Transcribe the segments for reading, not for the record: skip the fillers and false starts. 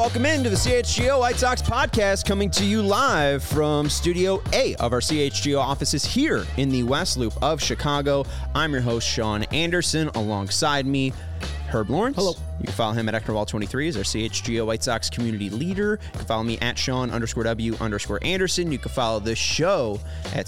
welcome into the CHGO White Sox podcast, coming to you live from Studio A of our CHGO offices here in the West Loop of Chicago. I'm your host, Sean Anderson. Alongside me, Herb Lawrence. Hello. You can follow him at Ecknerwall23 as our CHGO White Sox community leader. You can follow me at Sean_W_Anderson. You can follow this show at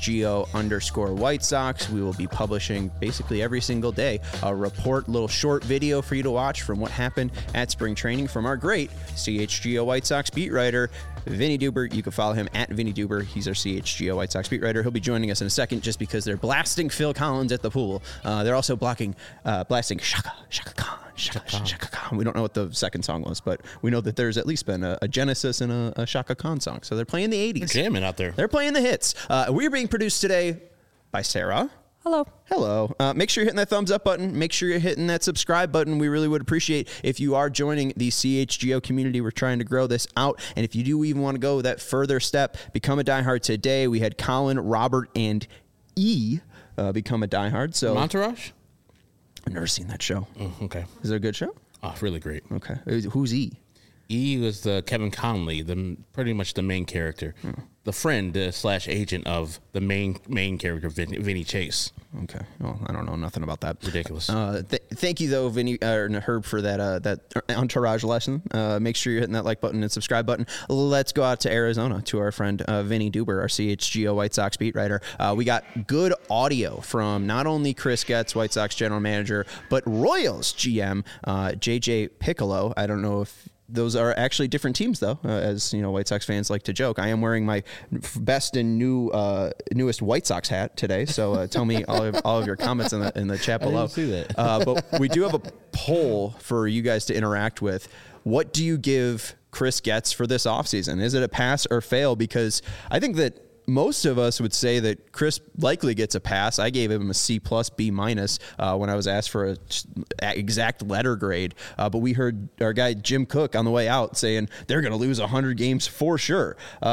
CHGO_White Sox. We will be publishing basically every single day a report, little short video for you to watch from what happened at spring training from our great CHGO White Sox beat writer, Vinny Duber. You can follow him at Vinny Duber. He's our CHGO White Sox beat writer. He'll be joining us in a second just because they're blasting Phil Collins at the pool. They're also blasting Shaka Khan. Shaka Khan. We don't know what the second song was, but we know that there's at least been a Genesis and a Shaka Khan song. So they're playing the 80s. They're jamming out there. They're playing the hits. We're being produced today by Sarah. Hello. Make sure you're hitting that thumbs up button. Make sure you're hitting that subscribe button. We really would appreciate if you are joining the CHGO community. We're trying to grow this out. And if you do even want to go that further step, become a diehard today. We had Colin, Robert, and E become a diehard. So Entourage? I've never seen that show. Okay. Is it a good show? Oh, really great. Okay. Who's E? E was the Kevin Conley, pretty much the main character, the friend / agent of the main character, Vinny Chase. Okay. Well, I don't know nothing about that. Ridiculous. Thank you though, Vinny Herb, for that Entourage lesson. Make sure you're hitting that like button and subscribe button. Let's go out to Arizona to our friend Vinny Duber, our CHGO White Sox beat writer. We got good audio from not only Chris Getz, White Sox general manager, but Royals GM JJ Piccolo. I don't know if those are actually different teams, though, as you know, White Sox fans like to joke. I am wearing my best and newest White Sox hat today. So tell me all of your comments in the chat below. I didn't see that. But we do have a poll for you guys to interact with. What do you give Chris Getz for this offseason? Is it a pass or fail? Because I think that most of us would say that Chris likely gets a pass. I gave him a C+, B- when I was asked for an exact letter grade. But we heard our guy Jim Cook on the way out saying they're going to lose 100 games for sure.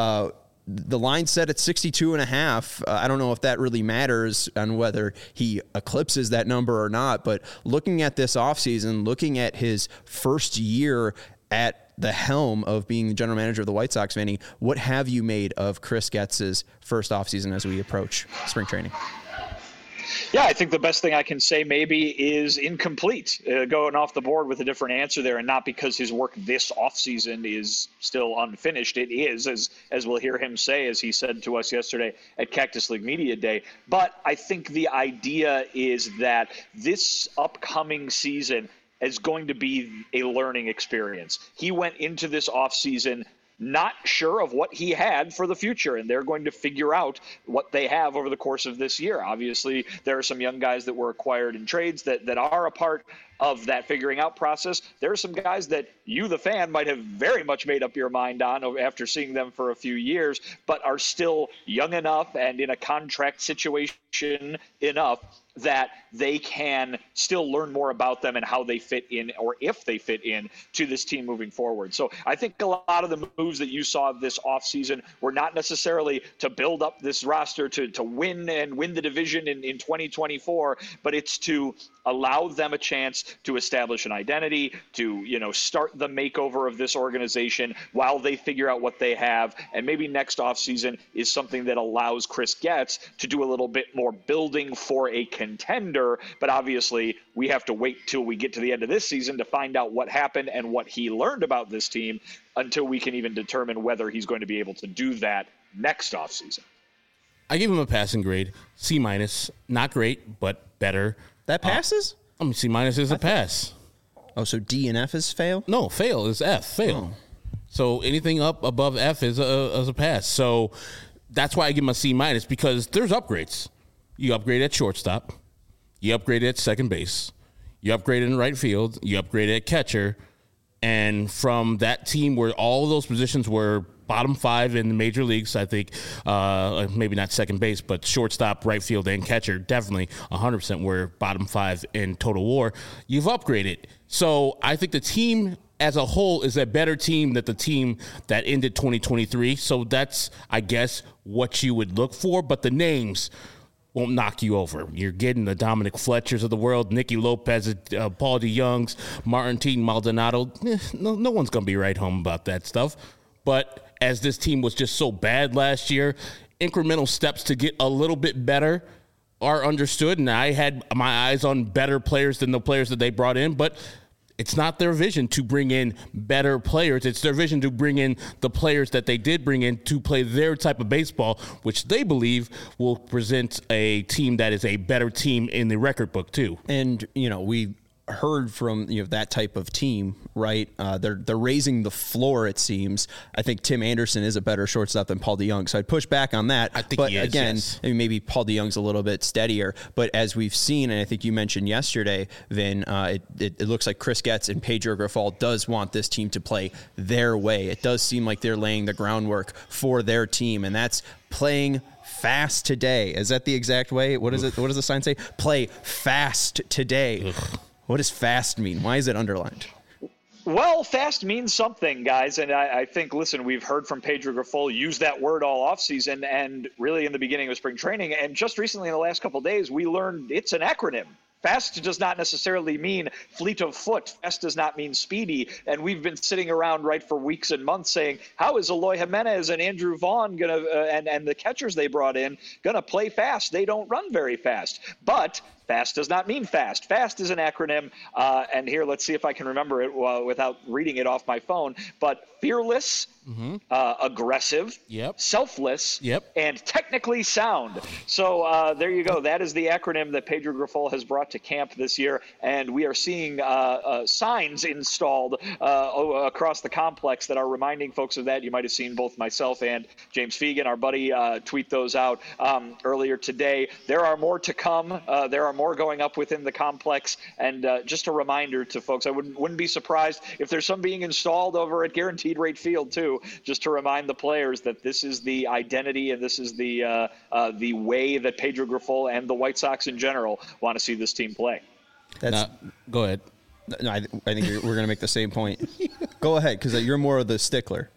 The line set at 62.5. I don't know if that really matters on whether he eclipses that number or not. But looking at this offseason, looking at his first year at the helm of being the general manager of the White Sox, Vinny, what have you made of Chris Getz's first offseason as we approach spring training? Yeah, I think the best thing I can say maybe is incomplete, going off the board with a different answer there, and not because his work this offseason is still unfinished. It is, as we'll hear him say, as he said to us yesterday at Cactus League Media Day. But I think the idea is that this upcoming season is going to be a learning experience. He went into this offseason not sure of what he had for the future, and they're going to figure out what they have over the course of this year. Obviously, there are some young guys that were acquired in trades that are a part of that figuring out process. There are some guys that you, the fan, might have very much made up your mind on after seeing them for a few years, but are still young enough and in a contract situation enough that they can still learn more about them and how they fit in, or if they fit in, to this team moving forward. So I think a lot of the moves that you saw this offseason were not necessarily to build up this roster to win the division in 2024, but it's to allow them a chance to establish an identity, to, start the makeover of this organization while they figure out what they have. And maybe next offseason is something that allows Chris Getz to do a little bit more building for a contender. But obviously, we have to wait till we get to the end of this season to find out what happened and what he learned about this team until we can even determine whether he's going to be able to do that next offseason. I give him a passing grade, C-. Not great, but better. That passes? C- is a pass. Oh, so D and F is fail? No, fail is F. Fail. Oh. So anything up above F is a pass. So that's why I give him a C- because there's upgrades. You upgrade at shortstop. You upgrade at second base. You upgrade in right field. You upgrade at catcher. And from that team where all of those positions were bottom 5 in the major leagues, I think, maybe not second base, but shortstop, right field, and catcher, definitely 100% were bottom 5 in total WAR. You've upgraded. So I think the team as a whole is a better team than the team that ended 2023. So that's, I guess, what you would look for. But the names, won't knock you over. You're getting the Dominic Fletchers of the world, Nicky Lopez, Paul DeYoungs, Martin T. Maldonado. No one's going to be right home about that stuff. But as this team was just so bad last year, incremental steps to get a little bit better are understood. And I had my eyes on better players than the players that they brought in, but it's not their vision to bring in better players. It's their vision to bring in the players that they did bring in to play their type of baseball, which they believe will present a team that is a better team in the record book too. And, we heard from that type of team, right? They're raising the floor, it seems. I think Tim Anderson is a better shortstop than Paul DeYoung, so I'd push back on that. I think he is, again, yes. Maybe Paul DeYoung's a little bit steadier. But as we've seen, and I think you mentioned yesterday, Vin, it looks like Chris Getz and Pedro Grifol does want this team to play their way. It does seem like they're laying the groundwork for their team, and that's playing fast today. Is that the exact way? What is it? What does the sign say? Play fast today. What does fast mean? Why is it underlined? Well, fast means something, guys. And I think, listen, we've heard from Pedro Grifol use that word all offseason and really in the beginning of spring training. And just recently in the last couple of days, we learned it's an acronym. Fast does not necessarily mean fleet of foot. Fast does not mean speedy. And we've been sitting around for weeks and months saying, how is Eloy Jimenez and Andrew Vaughn going to, and the catchers they brought in, going to play fast? They don't run very fast. But fast does not mean fast. Fast is an acronym. And here, let's see if I can remember it without reading it off my phone. But fearless, aggressive, selfless, and technically sound. So there you go. That is the acronym that Pedro Grifol has brought to camp this year. And we are seeing signs installed across the complex that are reminding folks of that. You might have seen both myself and James Fegan, our buddy, tweet those out earlier today. There are more to come. There are more going up within the complex. And just a reminder to folks, I wouldn't be surprised if there's some being installed over at Guaranteed Rate Field too, just to remind the players that this is the identity and this is the way that Pedro Grifol and the White Sox in general want to see this team play. Go ahead. No, I think we're going to make the same point. Go ahead, because you're more of the stickler.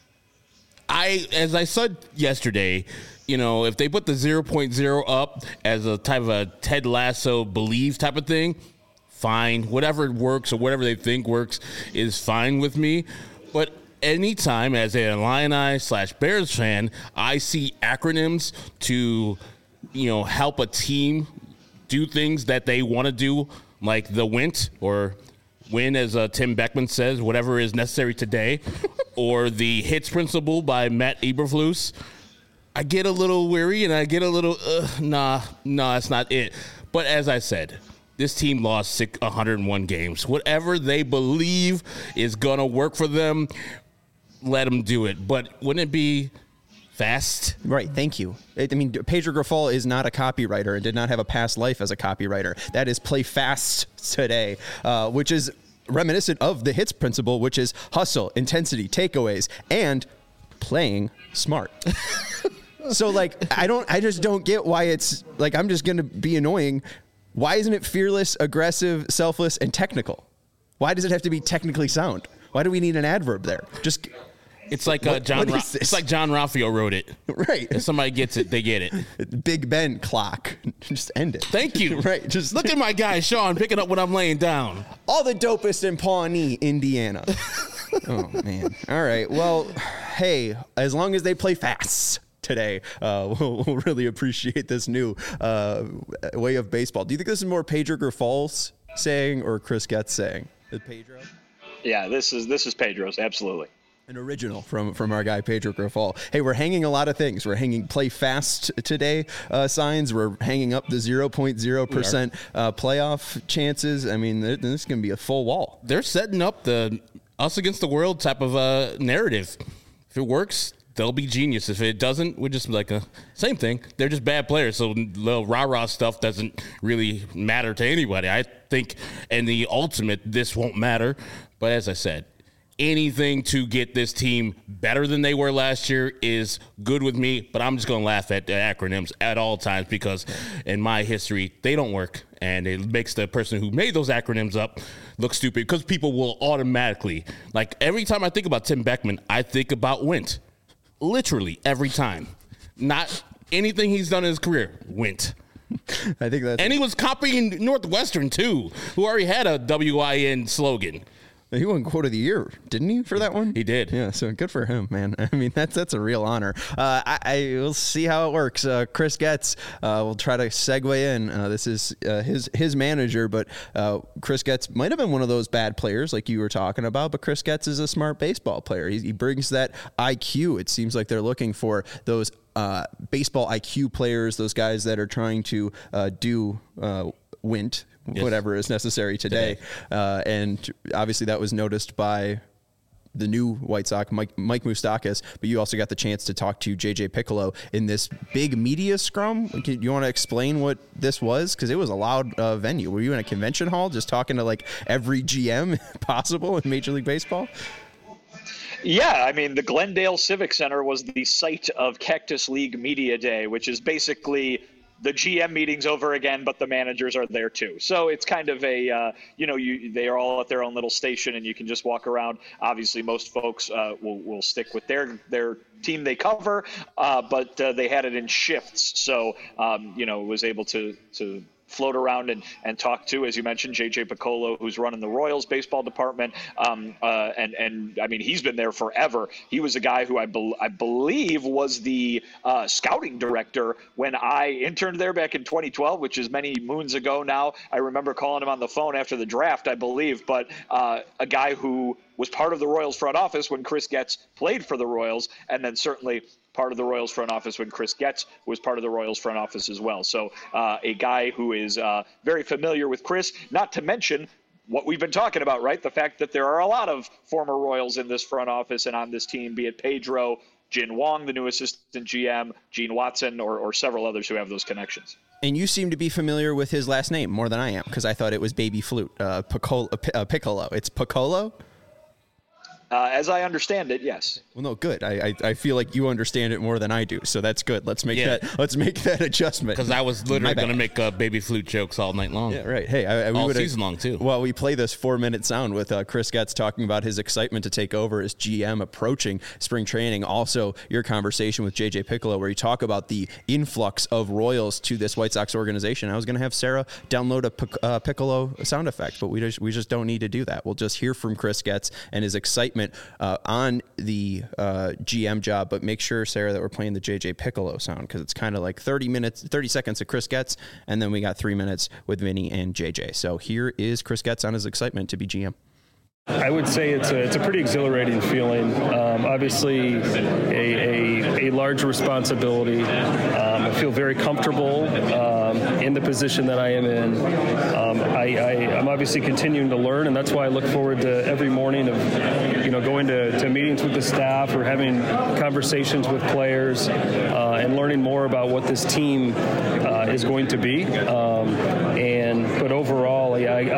As I said yesterday, if they put the 0.0 up as a type of a Ted Lasso believe type of thing, fine. Whatever works or whatever they think works is fine with me. But anytime as a Illini/Bears fan, I see acronyms to, help a team do things that they want to do, like the WINT or win, as Tim Beckman says, whatever is necessary today, or the HITS principle by Matt Eberflus, I get a little weary and I get a little, nah, that's not it. But as I said, this team lost 101 games. Whatever they believe is going to work for them, let them do it. But wouldn't it be fast? Right, thank you. Pedro Grifol is not a copywriter and did not have a past life as a copywriter. That is play fast today, which is reminiscent of the HITS principle, which is hustle, intensity, takeaways, and playing smart. So, I just don't get why it's, I'm just going to be annoying. Why isn't it fearless, aggressive, selfless, and technical? Why does it have to be technically sound? Why do we need an adverb there? It's like it's like John Raffio wrote it. Right. If somebody gets it, they get it. Big Ben clock. Just end it. Thank you. Right. Just look at my guy Sean picking up what I'm laying down. All the dopest in Pawnee, Indiana. Oh man. All right. Well, hey, as long as they play fast today, we'll really appreciate this new way of baseball. Do you think this is more Pedro Grifol's saying or Chris Getz saying? Is Pedro? Yeah, this is Pedro's, absolutely. An original from our guy Pedro Grifol. Hey, we're hanging a lot of things. We're hanging play fast today signs. We're hanging up the 0.0% playoff chances. I mean, this is going to be a full wall. They're setting up the us against the world type of narrative. If it works, they'll be genius. If it doesn't, we're just like same thing. They're just bad players, so little rah-rah stuff doesn't really matter to anybody. I think in the ultimate, this won't matter. But as I said, anything to get this team better than they were last year is good with me, but I'm just going to laugh at the acronyms at all times because in my history, they don't work, and it makes the person who made those acronyms up look stupid because people will automatically, every time I think about Tim Beckman, I think about WINT. Literally every time. Not anything he's done in his career, WINT. I think that's. And he was copying Northwestern too, who already had a WIN slogan. He won Quote of the Year, didn't he, for that one? He did. Yeah, so good for him, man. I mean, that's a real honor. I will see how it works. Chris Getz, we'll try to segue in. This is his manager, but Chris Getz might have been one of those bad players like you were talking about, but Chris Getz is a smart baseball player. He brings that IQ. It seems like they're looking for those baseball IQ players, those guys that are trying to do wint. Yes. Whatever is necessary today. And obviously that was noticed by the new White Sox, Mike Moustakas, but you also got the chance to talk to JJ Piccolo in this big media scrum. You want to explain what this was? Because it was a loud venue. Were you in a convention hall just talking to like every GM possible in Major League Baseball? Yeah, I mean, the Glendale Civic Center was the site of Cactus League Media Day, which is basically the GM meetings over again, but the managers are there too. So it's kind of a, they are all at their own little station and you can just walk around. Obviously, most folks will stick with their team they cover, but they had it in shifts. So, was able to float around and talk to, as you mentioned, JJ Piccolo, who's running the Royals baseball department. And I mean, he's been there forever. He was a guy who I believe was the scouting director when I interned there back in 2012, which is many moons ago now. I remember calling him on the phone after the draft, I believe, but a guy who was part of the Royals front office when Chris Getz played for the Royals, and then certainly part of the Royals front office when Chris Getz was part of the Royals front office as well. So a guy who is very familiar with Chris, not to mention what we've been talking about, right? The fact that there are a lot of former Royals in this front office and on this team, be it Pedro, Jin Wong, the new assistant GM, Gene Watson, or several others who have those connections. And you seem to be familiar with his last name more than I am, because I thought it was Baby Flute, Piccolo. It's Piccolo? As I understand it, yes. Well, no, good. I feel like you understand it more than I do, so that's good. Let's make that adjustment. Because I was literally going to make Baby Flute jokes all night long. Yeah, right. Hey, all season long too. Well, we play this 4-minute sound with Chris Getz talking about his excitement to take over as GM approaching spring training. Also, your conversation with JJ Piccolo, where you talk about the influx of Royals to this White Sox organization. I was going to have Sarah download a Piccolo sound effect, but we just don't need to do that. We'll just hear from Chris Getz and his excitement on the GM job, but make sure, Sarah, that we're playing the JJ Piccolo sound, because it's kind of like 30 seconds of Chris Getz, and then we got 3 minutes with Vinny and JJ. So here is Chris Getz on his excitement to be GM. I would say it's a pretty exhilarating feeling. Obviously, a large responsibility. I feel very comfortable in the position that I am in. I'm obviously continuing to learn, and that's why I look forward to every morning of going to meetings with the staff or having conversations with players and learning more about what this team is going to be. But overall,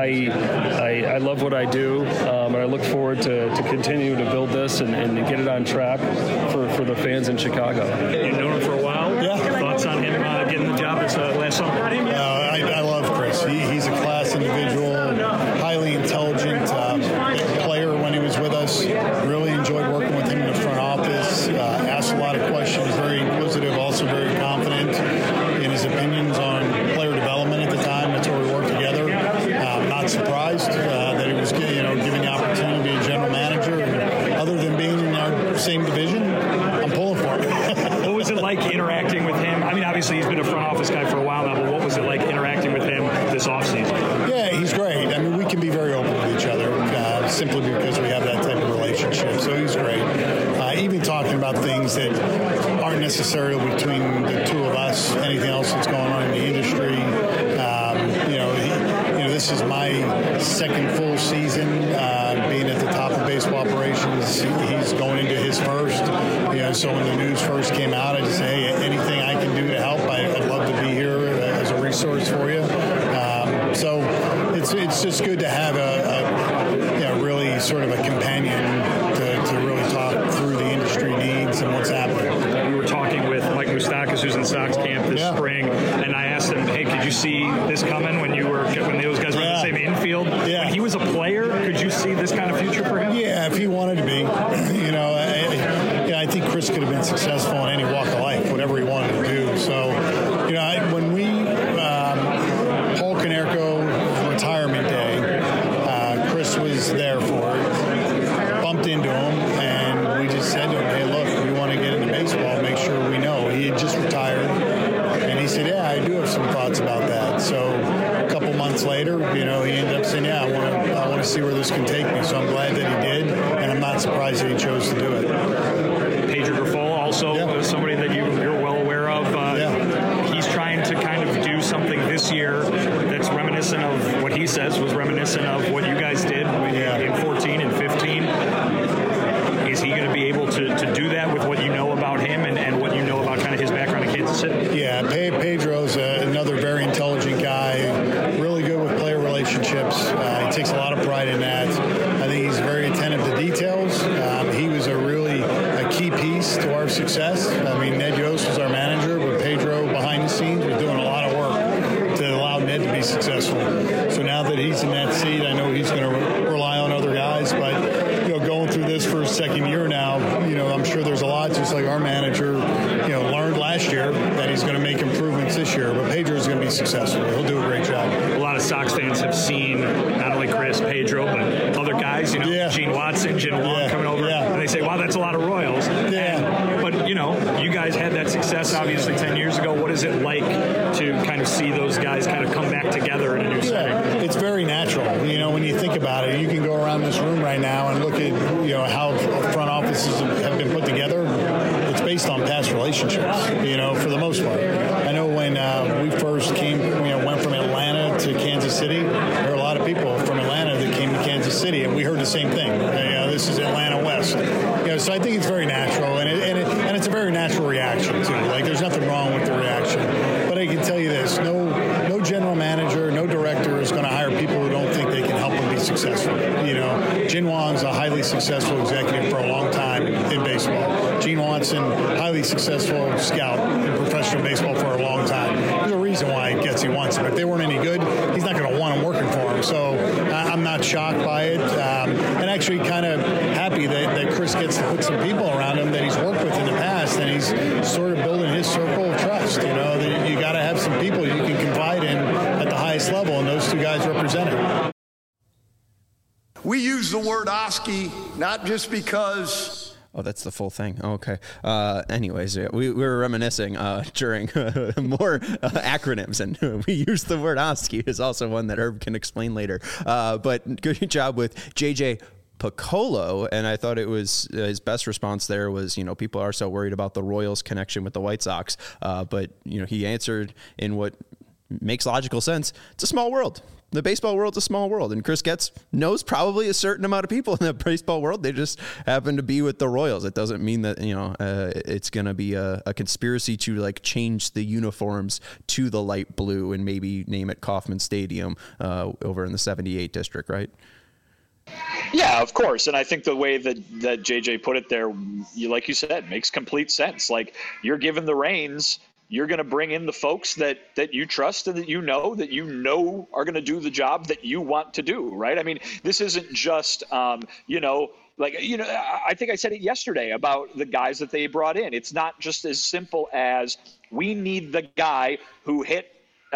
I love what I do. And I look forward to continue to build this and get it on track for the fans in Chicago. You've known him for a while. Yeah. Thoughts on him getting the job this last summer? I love Chris. He's a class individual, highly intelligent player when he was with us. Really enjoyed working with him in the front office. Asked a lot of questions, very inquisitive, also very confident in his opinions on player development at the time. That's where we worked together. Not surprised that he was given the opportunity to be a general manager. And other than being in our same division, I'm pulling for him. What was it like interacting with him? I mean, obviously he's been a front office guy for a while now, but what was it like interacting with him this offseason? Yeah, he's great. I mean, we can be very open with each other simply because we have that type of relationship. So he's great. Even talking about things that aren't necessarily between the two of us, anything else that's going on in the industry. This is my second full season being at the top of baseball operations. He's going into his first. So when the news first came out, I just said, hey, anything I can do to help, I'd love to be here as a resource for you. So it's just good to have a really sort of a companion to really talk through the industry needs and what's happening. We were talking with Mike Moustakas, who's in Sox camp this spring, and I asked him, hey, could you see this coming when those guys were in the same infield? Yeah. When he was a player, could you see this kind of future for him? Yeah, if he wanted to be. I think Chris could have been successful in any walk of life, whatever he wanted to do. So, when we months later, he ended up saying, yeah, I want to see where this can take me. So I'm glad that he did, and I'm not surprised that he chose to do it. Pedro Grifol, also somebody that you're well aware of. He's trying to kind of do something this year that's reminiscent of what he says was reminiscent of what you guys did in 14 and 15. Is he going to be able to do that with what you know about him and what you know about kind of his background in Kansas City? Yeah, Pedro's another very intelligent guy, really good with player relationships. He takes a lot of pride in that. I think he's very attentive to details. He was a key piece to our success. I mean, Ned Yost was our manager, but Pedro, behind the scenes, was doing a lot of work to allow Ned to be successful. So now that he's in that seat, I know he's going to rely on other guys, but going through this for his second year now, I'm sure there's a lot, just like our manager, learned last year, that he's going to make improvements this year. But Pedro is going to be successful. He'll do a great job. A lot of Sox fans have seen not only Chris, Pedro, but other guys, Gene Watson, Jin Wong coming over, and they say, wow, that's a lot of Royals. But, you guys had that success, obviously, 10 years ago. What is it like to kind of see those guys kind of come back together in a new setting? It's very natural. When you think about it, you can go around this room right now and look at, how front offices have been put together. It's based on past relationships, for the most part. I know when we first went from Atlanta to Kansas City, there were a lot of people from Atlanta that came to Kansas City, and we heard the same thing. This is Atlanta West. So I think it's very natural, and it's a very natural reaction, too. Like, there's nothing wrong with the reaction. But I can tell you this, no general manager, no director is going to hire people who don't think they can help them be successful. Jin Wong's a highly successful executive for a long time in baseball. Gene Watson, highly successful scout in professional baseball for a long time. There's a reason why Getsy wants him. If they weren't any good, he's not going to want him working for him. So I'm not shocked by it, and actually kind of happy that Chris gets to put some people around him that he's worked with in the past, and he's sort of building his circle of trust. That you got to have some people you can confide in at the highest level, and those two guys represent it. We use the word Oski not just because... Oh, that's the full thing. Oh, okay. Anyways, we were reminiscing during more acronyms, and we used the word Oski is also one that Herb can explain later. But good job with JJ Picollo, and I thought it was his best response there was, people are so worried about the Royals connection with the White Sox, but he answered in what makes logical sense. It's a small world. The baseball world's a small world, and Chris Getz knows probably a certain amount of people in the baseball world. They just happen to be with the Royals. It doesn't mean that, it's going to be a conspiracy to change the uniforms to the light blue and maybe name it Kauffman Stadium over in the 78 district, right? Yeah, of course. And I think the way that JJ put it there, like you said, makes complete sense. Like, you're given the reins. You're going to bring in the folks that you trust and that you know are going to do the job that you want to do, right? I mean, this isn't just, I think I said it yesterday about the guys that they brought in. It's not just as simple as we need the guy who hit,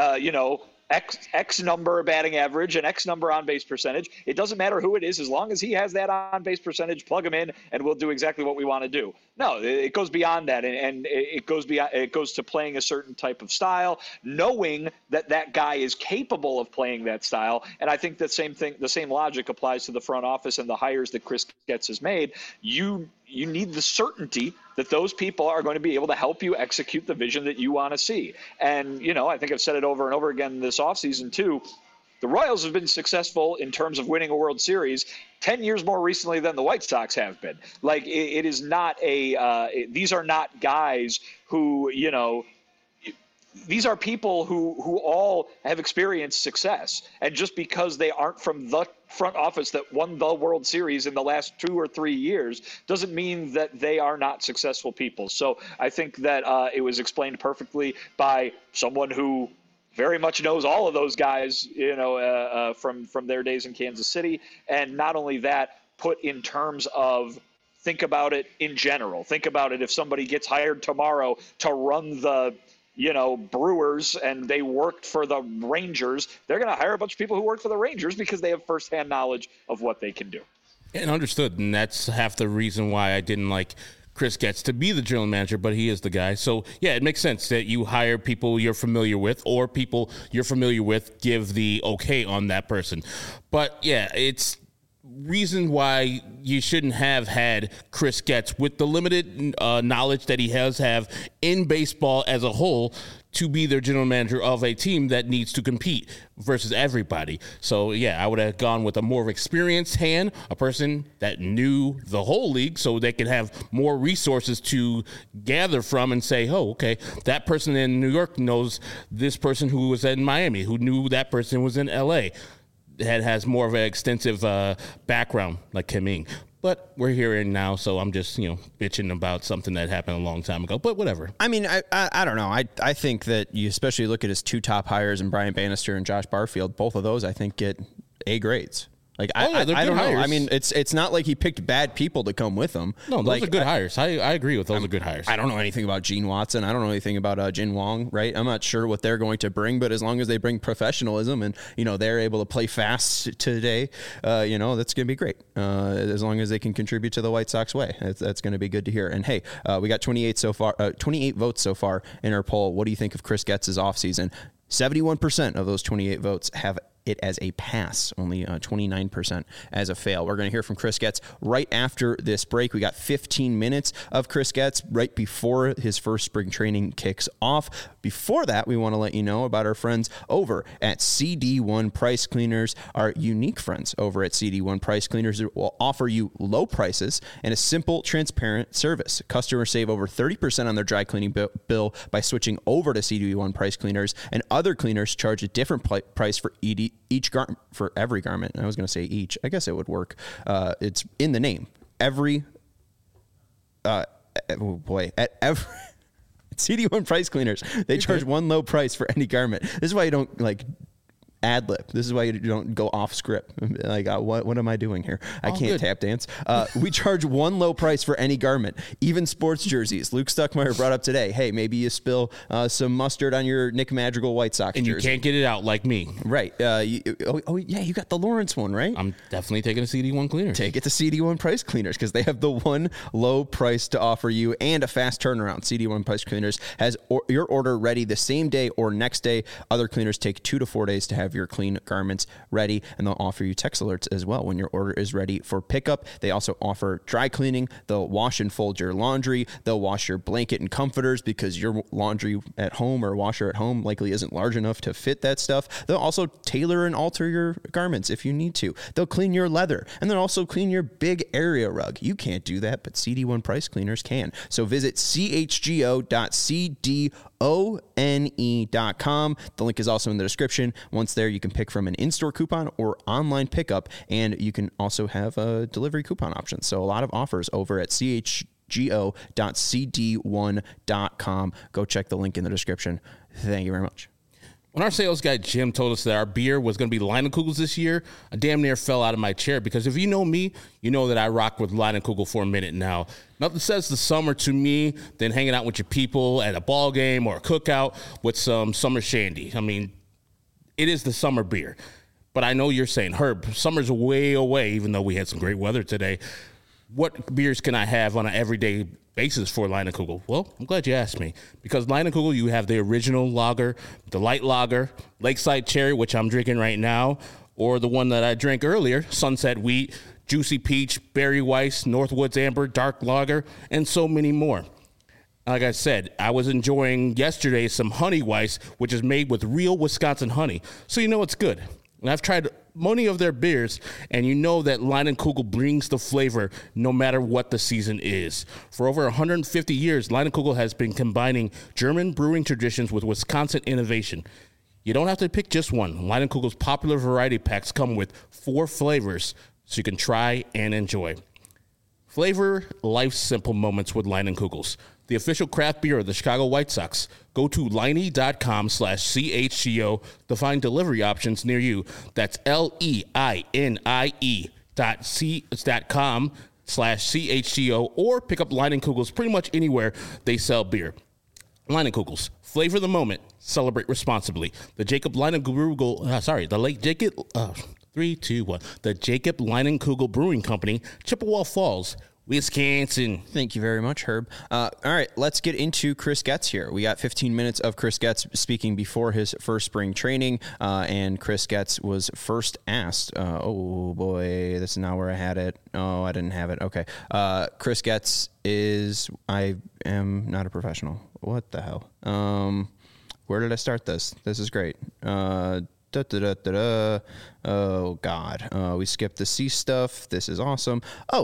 X number batting average and X number on base percentage. It doesn't matter who it is, as long as he has that on base percentage, plug him in and we'll do exactly what we want to do. No, it goes beyond that, and it goes to playing a certain type of style, knowing that guy is capable of playing that style. And I think the same logic applies to the front office and the hires that Chris Getz has made. You need the certainty that those people are going to be able to help you execute the vision that you want to see. And, I think I've said it over and over again this offseason too. The Royals have been successful in terms of winning a World Series 10 years more recently than the White Sox have been. Like, it is not these are not guys who, these are people who all have experienced success. And just because they aren't from the front office that won the World Series in the last 2 or 3 years doesn't mean that they are not successful people. So I think that it was explained perfectly by someone who very much knows all of those guys, from their days in Kansas City. And not only that, put in terms of, think about it in general. Think about it if somebody gets hired tomorrow to run the Brewers and they worked for the Rangers, they're going to hire a bunch of people who work for the Rangers because they have firsthand knowledge of what they can do. And understood. And that's half the reason why I didn't like Chris Getz to be the general manager, but he is the guy. So, yeah, it makes sense that you hire people you're familiar with, or people you're familiar with give the okay on that person. But, yeah, it's reason why you shouldn't have had Chris Getz with the limited knowledge that he has in baseball as a whole to be their general manager of a team that needs to compete versus everybody. So, yeah, I would have gone with a more experienced hand, a person that knew the whole league so they could have more resources to gather from and say, oh, okay, that person in New York knows this person who was in Miami, who knew that person was in L.A., has more of an extensive background like Kim Ng. But we're here now, so I'm just, bitching about something that happened a long time ago. But whatever. I mean, I don't know. I think that you especially look at his two top hires in Brian Bannister and Josh Barfield. Both of those, I think, get A grades. Like, I don't know. I mean, it's not like he picked bad people to come with him. No, those are good hires. I agree with those are good hires. I don't know anything about Gene Watson. I don't know anything about Jin Wong, right? I'm not sure what they're going to bring, but as long as they bring professionalism and, they're able to play fast today, that's going to be great. As long as they can contribute to the White Sox way, that's going to be good to hear. And hey, we got 28 votes so far in our poll. What do you think of Chris Getz's offseason? 71% of those 28 votes have it as a pass, only 29% as a fail. We're going to hear from Chris Getz right after this break. We got 15 minutes of Chris Getz right before his first spring training kicks off. Before that, we want to let you know about our friends over at CD1 Price Cleaners. Our unique friends over at CD1 Price Cleaners will offer you low prices and a simple, transparent service. Customers save over 30% on their dry cleaning bill by switching over to CD1 Price Cleaners, and other cleaners charge a different price for for every garment. I was going to say each. I guess it would work. It's in the name. Every. At CD1 Price Cleaners, they charge one low price for any garment. This is why you don't ad lib. This is why you don't go off script. Like, what am I doing here? I can't tap dance. We charge one low price for any garment, even sports jerseys. Luke Stuckmeyer brought up today, hey, maybe you spill some mustard on your Nick Madrigal White Sox and jersey. And you can't get it out like me. Right. Yeah, you got the Lawrence one, right? I'm definitely taking a CD1 Cleaners. Take it to CD1 Price Cleaners because they have the one low price to offer you and a fast turnaround. CD1 Price Cleaners has your order ready the same day or next day. Other cleaners take 2 to 4 days to have your clean garments ready, and they'll offer you text alerts as well when your order is ready for pickup. They also offer dry cleaning. They'll wash and fold your laundry. They'll wash your blanket and comforters because your laundry at home or washer at home likely isn't large enough to fit that stuff. They'll also tailor and alter your garments if you need to. They'll clean your leather, and they'll also clean your big area rug. You can't do that, but CD1 Price Cleaners can. So visit chgo.cdone.com. The link is also in the description. Once there, you can pick from an in-store coupon or online pickup, and you can also have a delivery coupon option. So a lot of offers over at chgo.cd1.com. Go check the link in the description. Thank you very much. When our sales guy Jim told us that our beer was going to be Leinenkugels this year, I damn near fell out of my chair because if you know me, you know that I rock with Leinenkugel for a minute now. Nothing says the summer to me than hanging out with your people at a ball game or a cookout with some summer shandy. I mean, it is the summer beer. But I know you're saying, Herb, summer's way away, even though we had some great weather today. What beers can I have on an everyday basis for Leinenkugel? Well, I'm glad you asked me. Because Leinenkugel, you have the original lager, the light lager, Lakeside Cherry, which I'm drinking right now, or the one that I drank earlier, Sunset Wheat, Juicy Peach, Berry Weiss, Northwoods Amber, Dark Lager, and so many more. Like I said, I was enjoying yesterday some Honey Weiss, which is made with real Wisconsin honey. So you know it's good. And I've tried many of their beers, and you know that Leinenkugel brings the flavor no matter what the season is. For over 150 years, Leinenkugel has been combining German brewing traditions with Wisconsin innovation. You don't have to pick just one. Leinenkugel's popular variety packs come with 4 flavors, so you can try and enjoy. Flavor life's simple moments with Leinenkugels, the official craft beer of the Chicago White Sox. Go to Leinie.com/CHGO to find delivery options near you. That's LEINIE.com/CHGO, or pick up Leinenkugels pretty much anywhere they sell beer. Leinenkugels, flavor the moment, celebrate responsibly. The Jacob Leinenkugel, the late Jacob, 3, 2, 1. The Jacob Leinenkugel Brewing Company, Chippewa Falls, Wisconsin. Thank you very much, Herb. All right, let's get into Chris Getz here. We got 15 minutes of Chris Getz speaking before his first spring training, and Chris Getz was first asked, oh boy, this is not where I had it. Oh, I didn't have it. Okay. Chris Getz is, I am not a professional. What the hell? Where did I start this? This is great. Oh, God. We skipped the C stuff. This is awesome.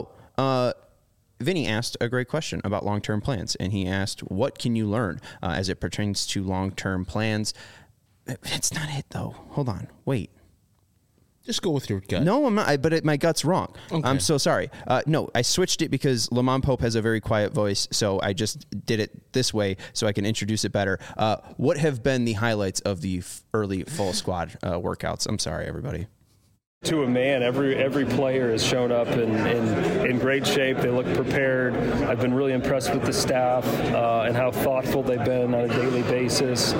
Vinny asked a great question about long-term plans, and he asked, what can you learn as it pertains to long-term plans? It's not it, though. Hold on. Wait. Just go with your gut. No, I'm not, but my gut's wrong. Okay. I'm so sorry. No, I switched it because Lamont Pope has a very quiet voice, so I just did it this way so I can introduce it better. What have been the highlights of the early full squad workouts? I'm sorry, everybody. To a man, every player has shown up in great shape. They look prepared. I've been really impressed with the staff and how thoughtful they've been on a daily basis.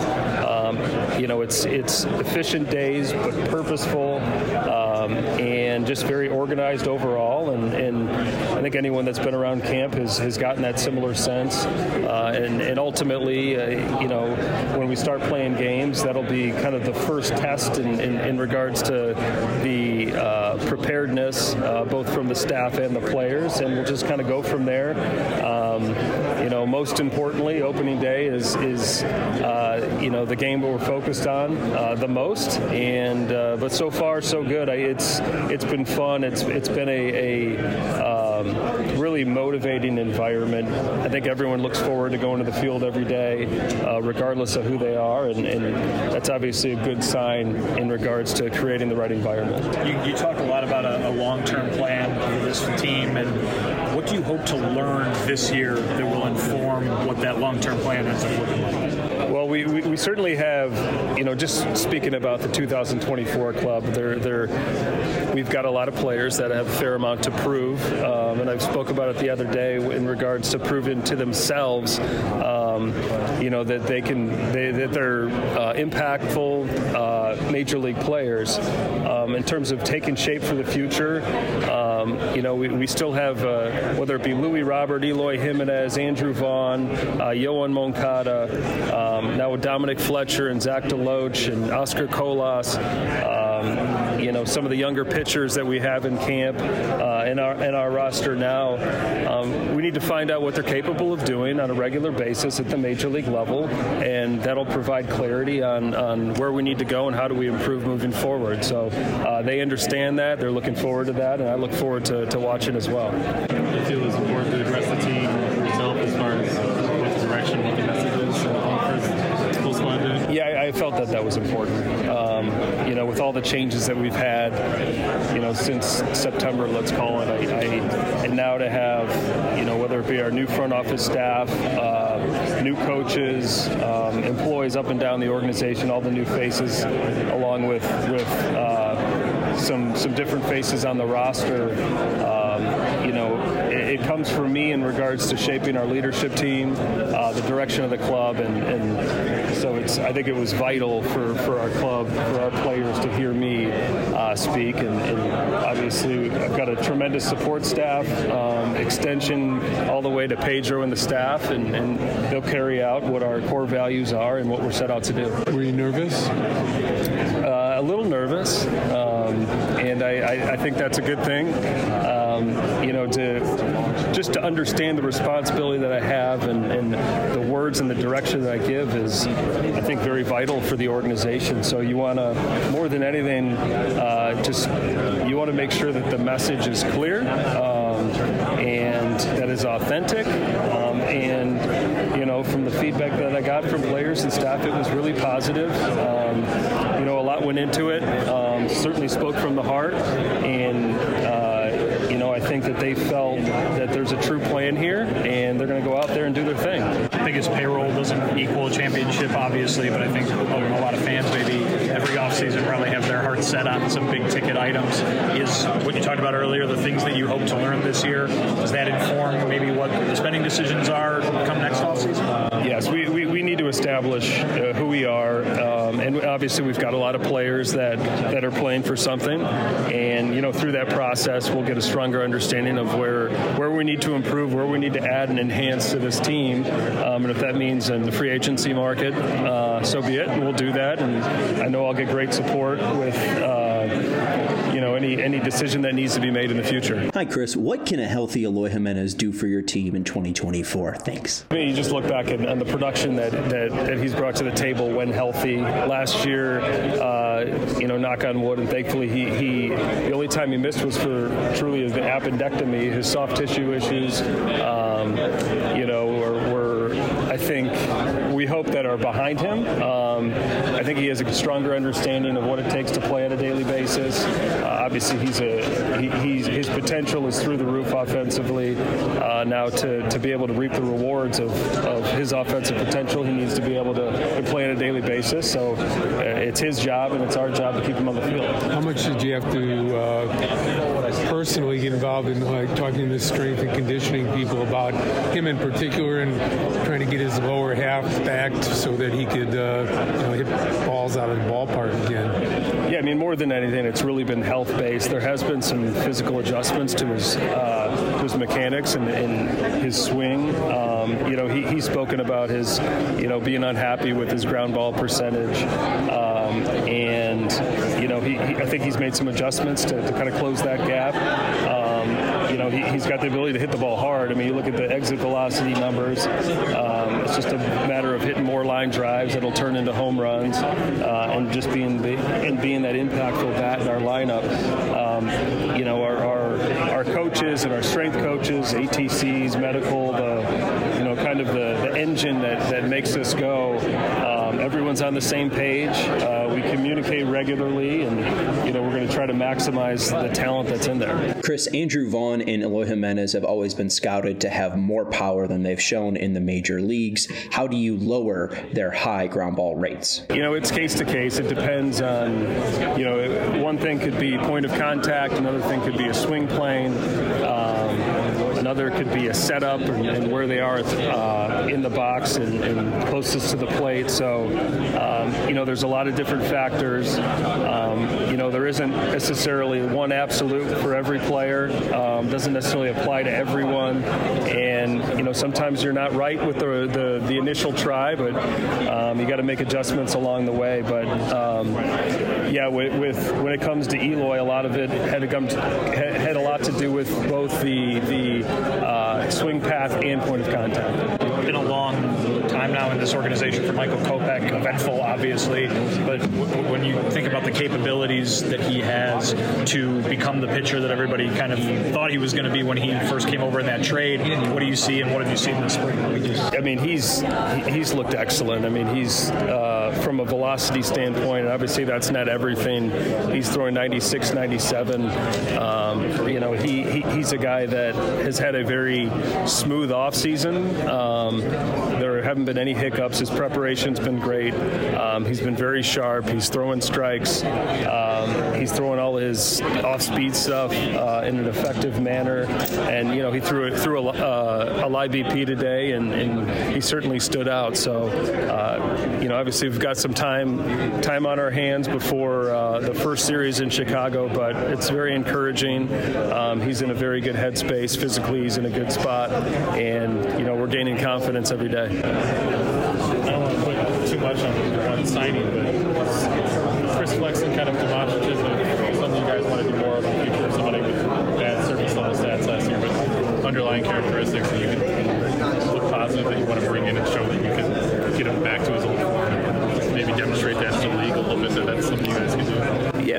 It's efficient days, but purposeful, and just very organized overall. And I think anyone that's been around camp has gotten that similar sense. And ultimately, when we start playing games, that'll be kind of the first test in regards to the preparedness, both from the staff and the players, and we'll just kind of go from there. Most importantly, opening day is the game that we're focused on the most. And but so far, so good. It's been fun. It's been a really motivating environment. I think everyone looks forward to going to the field every day, regardless of who they are, and that's obviously a good sign in regards to creating the right environment. You talk a lot about a long-term plan for this team, and what do you hope to learn this year that will inform what that long-term plan ends up looking like? Well, we certainly have, just speaking about the 2024 club, we've got a lot of players that have a fair amount to prove, and I spoke about it the other day in regards to proving to themselves, that they're impactful major league players. In terms of taking shape for the future, we still have, whether it be Louis Robert, Eloy Jimenez, Andrew Vaughn, Yohan Moncada, now with Dominic Fletcher and Zach DeLoach and Oscar Colas, some of the younger pitchers that we have in camp in our roster now. We need to find out what they're capable of doing on a regular basis at the major league level, and that'll provide clarity on where we need to go and how do we improve moving forward. So they understand that. They're looking forward to that, and I look forward to watching as well. I feel it's important to address the team itself as far as what the direction, what the message is for full squad day. Yeah, I felt that was important. With all the changes that we've had, since September, let's call it, and now to have, whether it be our new front office staff, new coaches, employees up and down the organization, all the new faces, along with some different faces on the roster. It comes from me in regards to shaping our leadership team, the direction of the club, and so I think it was vital for our club, for our players to hear me speak, and obviously I've got a tremendous support staff, extension all the way to Pedro and the staff, and they'll carry out what our core values are and what we're set out to do. Were you nervous? A little nervous, and I think that's a good thing. To understand the responsibility that I have and the words and the direction that I give is, I think, very vital for the organization. So you want to, more than anything, you want to make sure that the message is clear and that is authentic. And from the feedback that I got from players and staff, it was really positive. A lot went into it. Certainly spoke from the heart, and I think that they felt that there's a true plan here, and they're going to go out there and do their thing. biggest payroll doesn't equal a championship, obviously, but I think a lot of fans maybe every offseason probably have their hearts set on some big ticket items. Is what you talked about earlier, the things that you hope to learn this year, does that inform maybe what the spending decisions are come next offseason? Yes, we need to establish who we are, and obviously we've got a lot of players that are playing for something, and through that process we'll get a stronger understanding of where we need to improve, where we need to add and enhance to this team, and if that means in the free agency market, so be it, and we'll do that. And I know I'll get great support with any decision that needs to be made in the future. Hi, Chris. What can a healthy Eloy Jimenez do for your team in 2024? Thanks. I mean, you just look back on the production that he's brought to the table when healthy. Last year, knock on wood, and thankfully the only time he missed was for truly the appendectomy, his soft tissue issues, I think we hope that are behind him. I think he has a stronger understanding of what it takes to play on a daily basis. Obviously, his potential is through the roof offensively. Now to be able to reap the rewards of his offensive potential, he needs to be able to play on a daily basis. So it's his job and it's our job to keep him on the field. How much did you have to personally get involved in talking to strength and conditioning people about him in particular and trying to get his lower half backed so that he could hit balls out of the ballpark again? Yeah, I mean, more than anything, it's really been health-based. There has been some physical adjustments to his mechanics and his swing. He's spoken about his, being unhappy with his ground ball percentage. I think he's made some adjustments to kind of close that gap. He's got the ability to hit the ball hard. I mean, you look at the exit velocity numbers. It's just a matter of hitting more line drives that'll turn into home runs, and just being that impactful bat in our lineup. Our coaches and our strength coaches, ATCs, medical, the engine that makes this go. Everyone's on the same page. We communicate regularly, and we're going to try to maximize the talent that's in there. Chris, Andrew Vaughn and Eloy Jimenez have always been scouted to have more power than they've shown in the major leagues. How do you lower their high ground ball rates? It's case to case. It depends on, one thing could be point of contact, another thing could be a swing plane. Another could be a setup and where they are in the box and closest to the plate. So, there's a lot of different factors. There isn't necessarily one absolute for every player. Doesn't necessarily apply to everyone. And, sometimes you're not right with the initial try, but you got to make adjustments along the way. But, when it comes to Eloy, a lot of it had a lot to do with both the swing path and point of contact. It's been a long time now in this organization for Michael Kopech, eventful, obviously, but when you think about the capabilities that he has to become the pitcher that everybody kind of thought he was going to be when he first came over in that trade, what do you see and what have you seen this spring? I mean, he's looked excellent. I mean, he's from a velocity standpoint, obviously that's not everything. He's throwing 96, 97. He's a guy that has had a very smooth offseason. There haven't been any hiccups. His preparation's been great. He's been very sharp. He's throwing strikes. He's throwing all his off-speed stuff in an effective manner. And, he threw a live BP today, and he certainly stood out. So, obviously we've got some time on our hands before the first series in Chicago, but it's very encouraging. He's in a very good headspace. Physically, he's in a good spot. And, we're gaining confidence every day. I don't want to put too much on one signing, but Chris Flexen kind of demonstrative of something you guys want to do more of in the future, somebody with bad service level stats last year, but underlying characteristics that you can look positive that you want to bring in and show that you can get him back to his old form and maybe demonstrate that to the league a little bit, that that's something you guys can do. Yeah,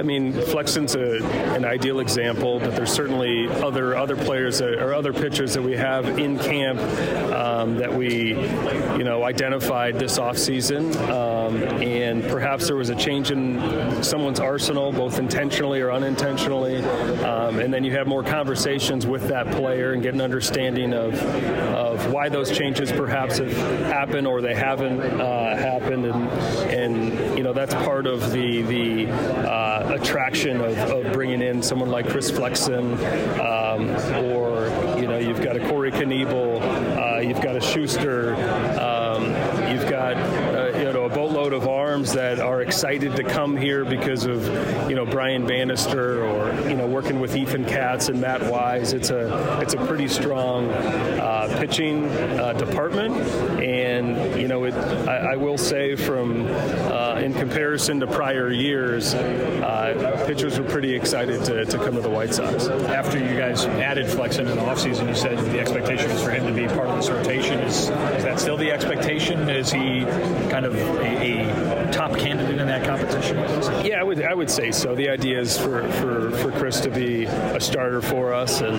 I mean, Flexen's an ideal example, but there's certainly other players or other pitchers that we have in camp that we, identified this offseason. And perhaps there was a change in someone's arsenal, both intentionally or unintentionally. And then you have more conversations with that player and get an understanding of why those changes perhaps have happened or they haven't happened. And that's part of the attraction of bringing in someone like Chris Flexen, or you've got a Corey Knievel, you've got a Schuster, you've got a boatload of arms that are excited to come here because of Brian Bannister or working with Ethan Katz and Matt Wise. It's a pretty strong pitching department, and I will say from in comparison to prior years, pitchers were pretty excited to come to the White Sox. After you guys added Flexen in the offseason, you said the expectation is for him to be part of this rotation. Is that still the expectation? Is he kind of a top candidate in that competition? Yeah, I would say so. The idea is for Chris to be a starter for us, and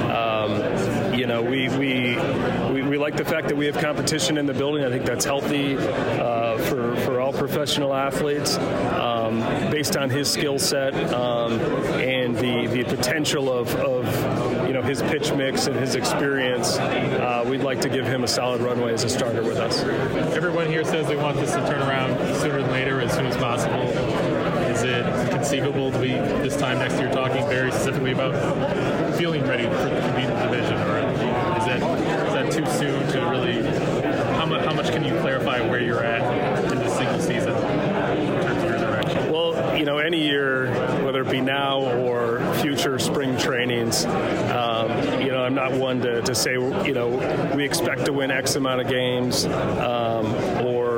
we like the fact that we have competition in the building. I think that's healthy for all professional athletes, based on his skill set and the potential of his pitch mix and his experience. We'd like to give him a solid runway as a starter with us. Everyone here says they want this to turn around sooner than later, as soon as possible. Is it conceivable to be this time next year talking very specifically about feeling ready to compete in the division, or is that too soon to really? How much can you clarify where you're at in this single season in terms of your direction? Well, any year, whether it be now or future spring trainings, I'm not one to say, we expect to win X amount of games, or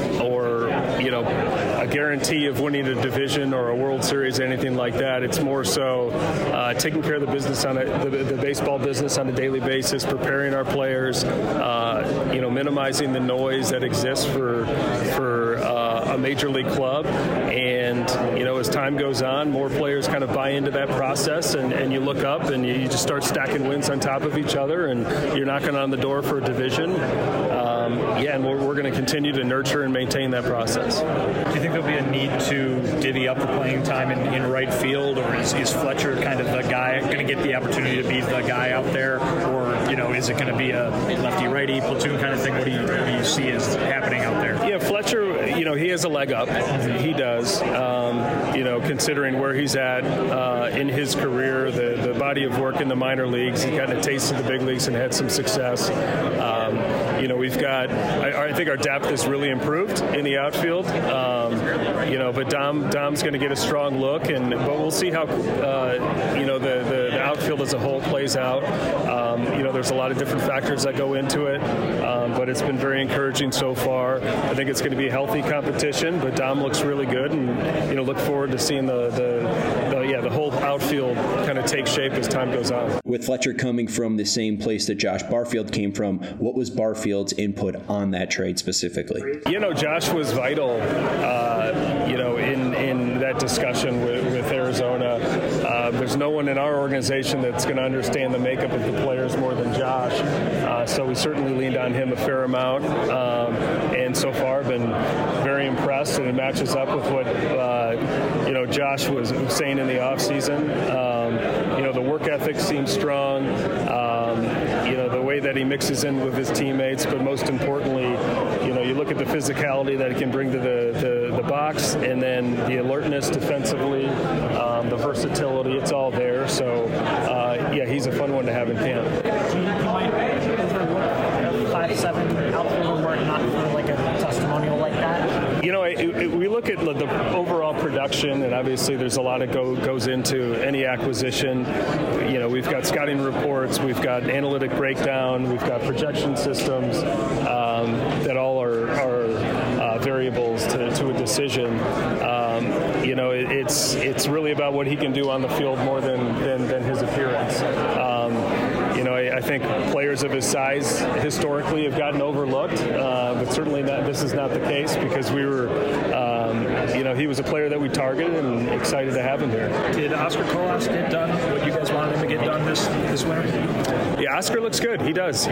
a guarantee of winning a division or a World Series, anything like that. It's more so taking care of the business the baseball business on a daily basis, preparing our players, minimizing the noise that exists for a major league club. And, as time goes on, more players kind of buy into that process, and you look up and you just start stacking wins on top of each other, and you're knocking on the door for a division. And we're going to continue to nurture and maintain that process. Do you think there'll be a need to divvy up the playing time in right field, or is Fletcher kind of the guy going to get the opportunity to be the guy out there, or is it going to be a lefty-righty platoon kind of thing? What do you see as happening out there? Yeah, Fletcher, he has a leg up. He does. Considering where he's at in his career, the body of work in the minor leagues, he's gotten a taste of the big leagues and had some success. We've got, I think our depth has really improved in the outfield. But Dom's going to get a strong look, but we'll see how the outfield as a whole plays out. There's a lot of different factors that go into it, but it's been very encouraging so far. I think it's going to be a healthy competition, but Dom looks really good, and look forward to seeing the whole outfield kind of take shape as time goes on. With Fletcher coming from the same place that Josh Barfield came from, what was Barfield's input on that trade specifically? Josh was vital, in that discussion with Arizona. There's no one in our organization that's going to understand the makeup of the players more than Josh. So we certainly leaned on him a fair amount, and so far been very impressed, and it matches up with what Josh was saying in the offseason. The work ethic seems strong. The way that he mixes in with his teammates, but most importantly, you look at the physicality that he can bring to the box, and then the alertness defensively, the versatility, it's all there. So, he's a fun one to have in camp. You might overlook 5'7" outfielder work, not for like a testimonial like that? We look at the overall production, and obviously there's a lot that goes into any acquisition. We've got scouting reports, we've got analytic breakdown, we've got projection systems that all are variables to a decision. It's really about what he can do on the field more than his appearance. I think players of his size historically have gotten overlooked, but certainly this is not the case because we were, he was a player that we targeted and excited to have him here. Did Oscar Colas get done what you guys wanted him to get done this winter? Yeah, Oscar looks good. He does.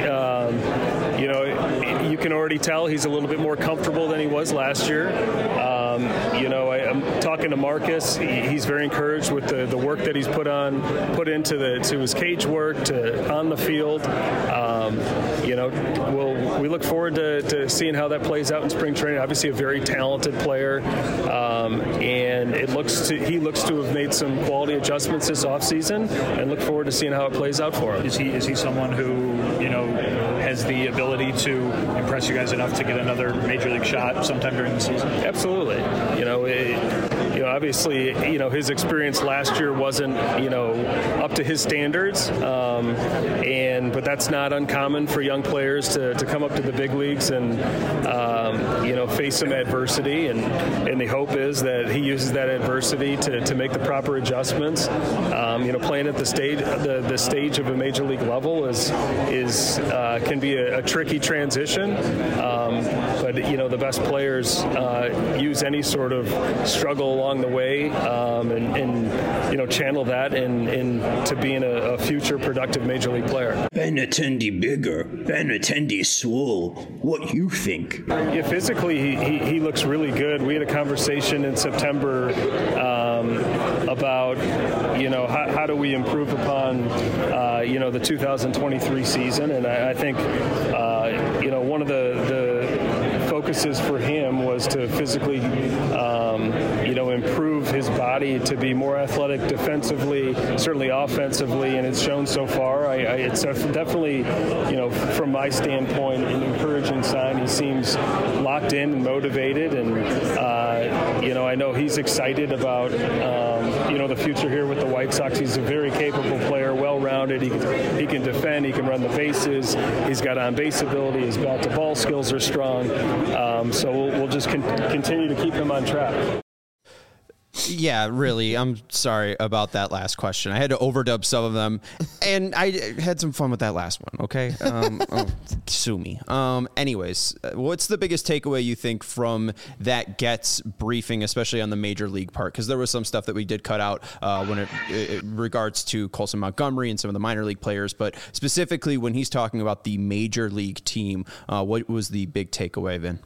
You can already tell he's a little bit more comfortable than he was last year. I'm talking to Marcus. He's very encouraged with the work that he's put into his cage work, on the field. We look forward to seeing how that plays out in spring training. Obviously, a very talented player, and he looks to have made some quality adjustments this offseason, and look forward to seeing how it plays out for him. Is he someone who has the ability to impress you guys enough to get another major league shot sometime during the season? Absolutely. Obviously, his experience last year wasn't, up to his standards, but that's not uncommon for young players to come up to the big leagues and, face some adversity, and the hope is that he uses that adversity to make the proper adjustments. Playing at the stage of a major league level can be a tricky transition, but the best players use any sort of struggle along the way and channel that into being a future productive major league player. Benintendi bigger, Benintendi swole. What you think? Yeah, physically he looks really good. We had a conversation in September about how do we improve upon the 2023 season, and I think one of the focuses for him was to physically improve his body to be more athletic defensively, certainly offensively, and it's shown so far. It's definitely, from my standpoint, an encouraging sign. He seems locked in and motivated, and I know he's excited about the future here with the White Sox. He's a very capable player, well-rounded. He can defend, he can run the bases, he's got on-base ability, his bat-to-ball skills are strong. So we'll just continue to keep him on track. Yeah, really. I'm sorry about that last question. I had to overdub some of them, and I had some fun with that last one. Okay, sue me. Anyways, what's the biggest takeaway you think from that Getz briefing, especially on the major league part? Because there was some stuff that we did cut out when it regards to Colson Montgomery and some of the minor league players, but specifically when he's talking about the major league team, what was the big takeaway, Vin?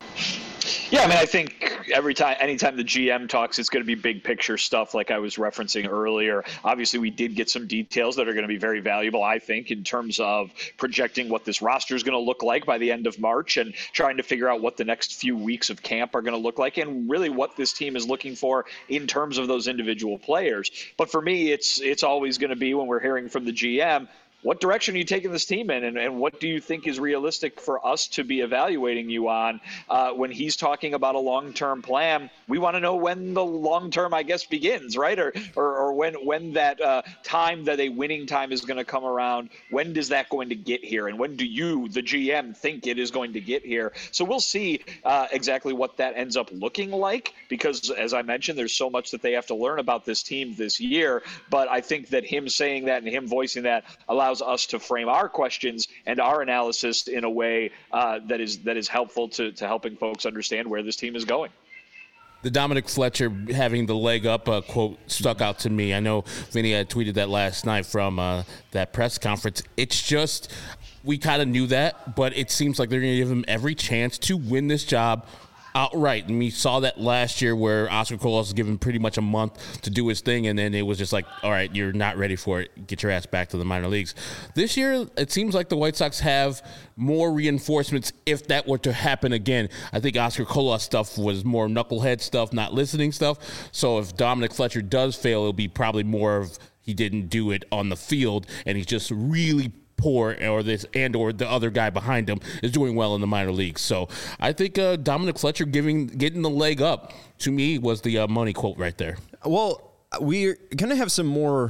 Yeah, I think anytime the GM talks, it's going to be big picture stuff like I was referencing earlier. Obviously, we did get some details that are going to be very valuable, I think, in terms of projecting what this roster is going to look like by the end of March and trying to figure out what the next few weeks of camp are going to look like and really what this team is looking for in terms of those individual players. But for me, it's always going to be when we're hearing from the GM, what direction are you taking this team in, and what do you think is realistic for us to be evaluating you on? When he's talking about a long-term plan, we want to know when the long-term, I guess, begins, right? Or when that time that a winning time is going to come around. When does that going to get here? And when do you, the GM, think it is going to get here? So we'll see exactly what that ends up looking like because, as I mentioned, there's so much that they have to learn about this team this year. But I think that him saying that and him voicing that allows us to frame our questions and our analysis in a way that is helpful to helping folks understand where this team is going. The Dominic Fletcher having the leg up quote stuck out to me. I know Vinny had tweeted that last night from that press conference. It's just, we kind of knew that, but it seems like they're going to give him every chance to win this job outright. And we saw that last year where Oscar Colas was given pretty much a month to do his thing, and then it was just like, all right, you're not ready for it. Get your ass back to the minor leagues. This year, it seems like the White Sox have more reinforcements if that were to happen again. I think Oscar Colas stuff was more knucklehead stuff, not listening stuff. So if Dominic Fletcher does fail, it'll be probably more of he didn't do it on the field, and he's just really poor, or the other guy behind him is doing well in the minor leagues. So I think Dominic Fletcher getting the leg up, to me, was the money quote right there. Well, we're going to have some more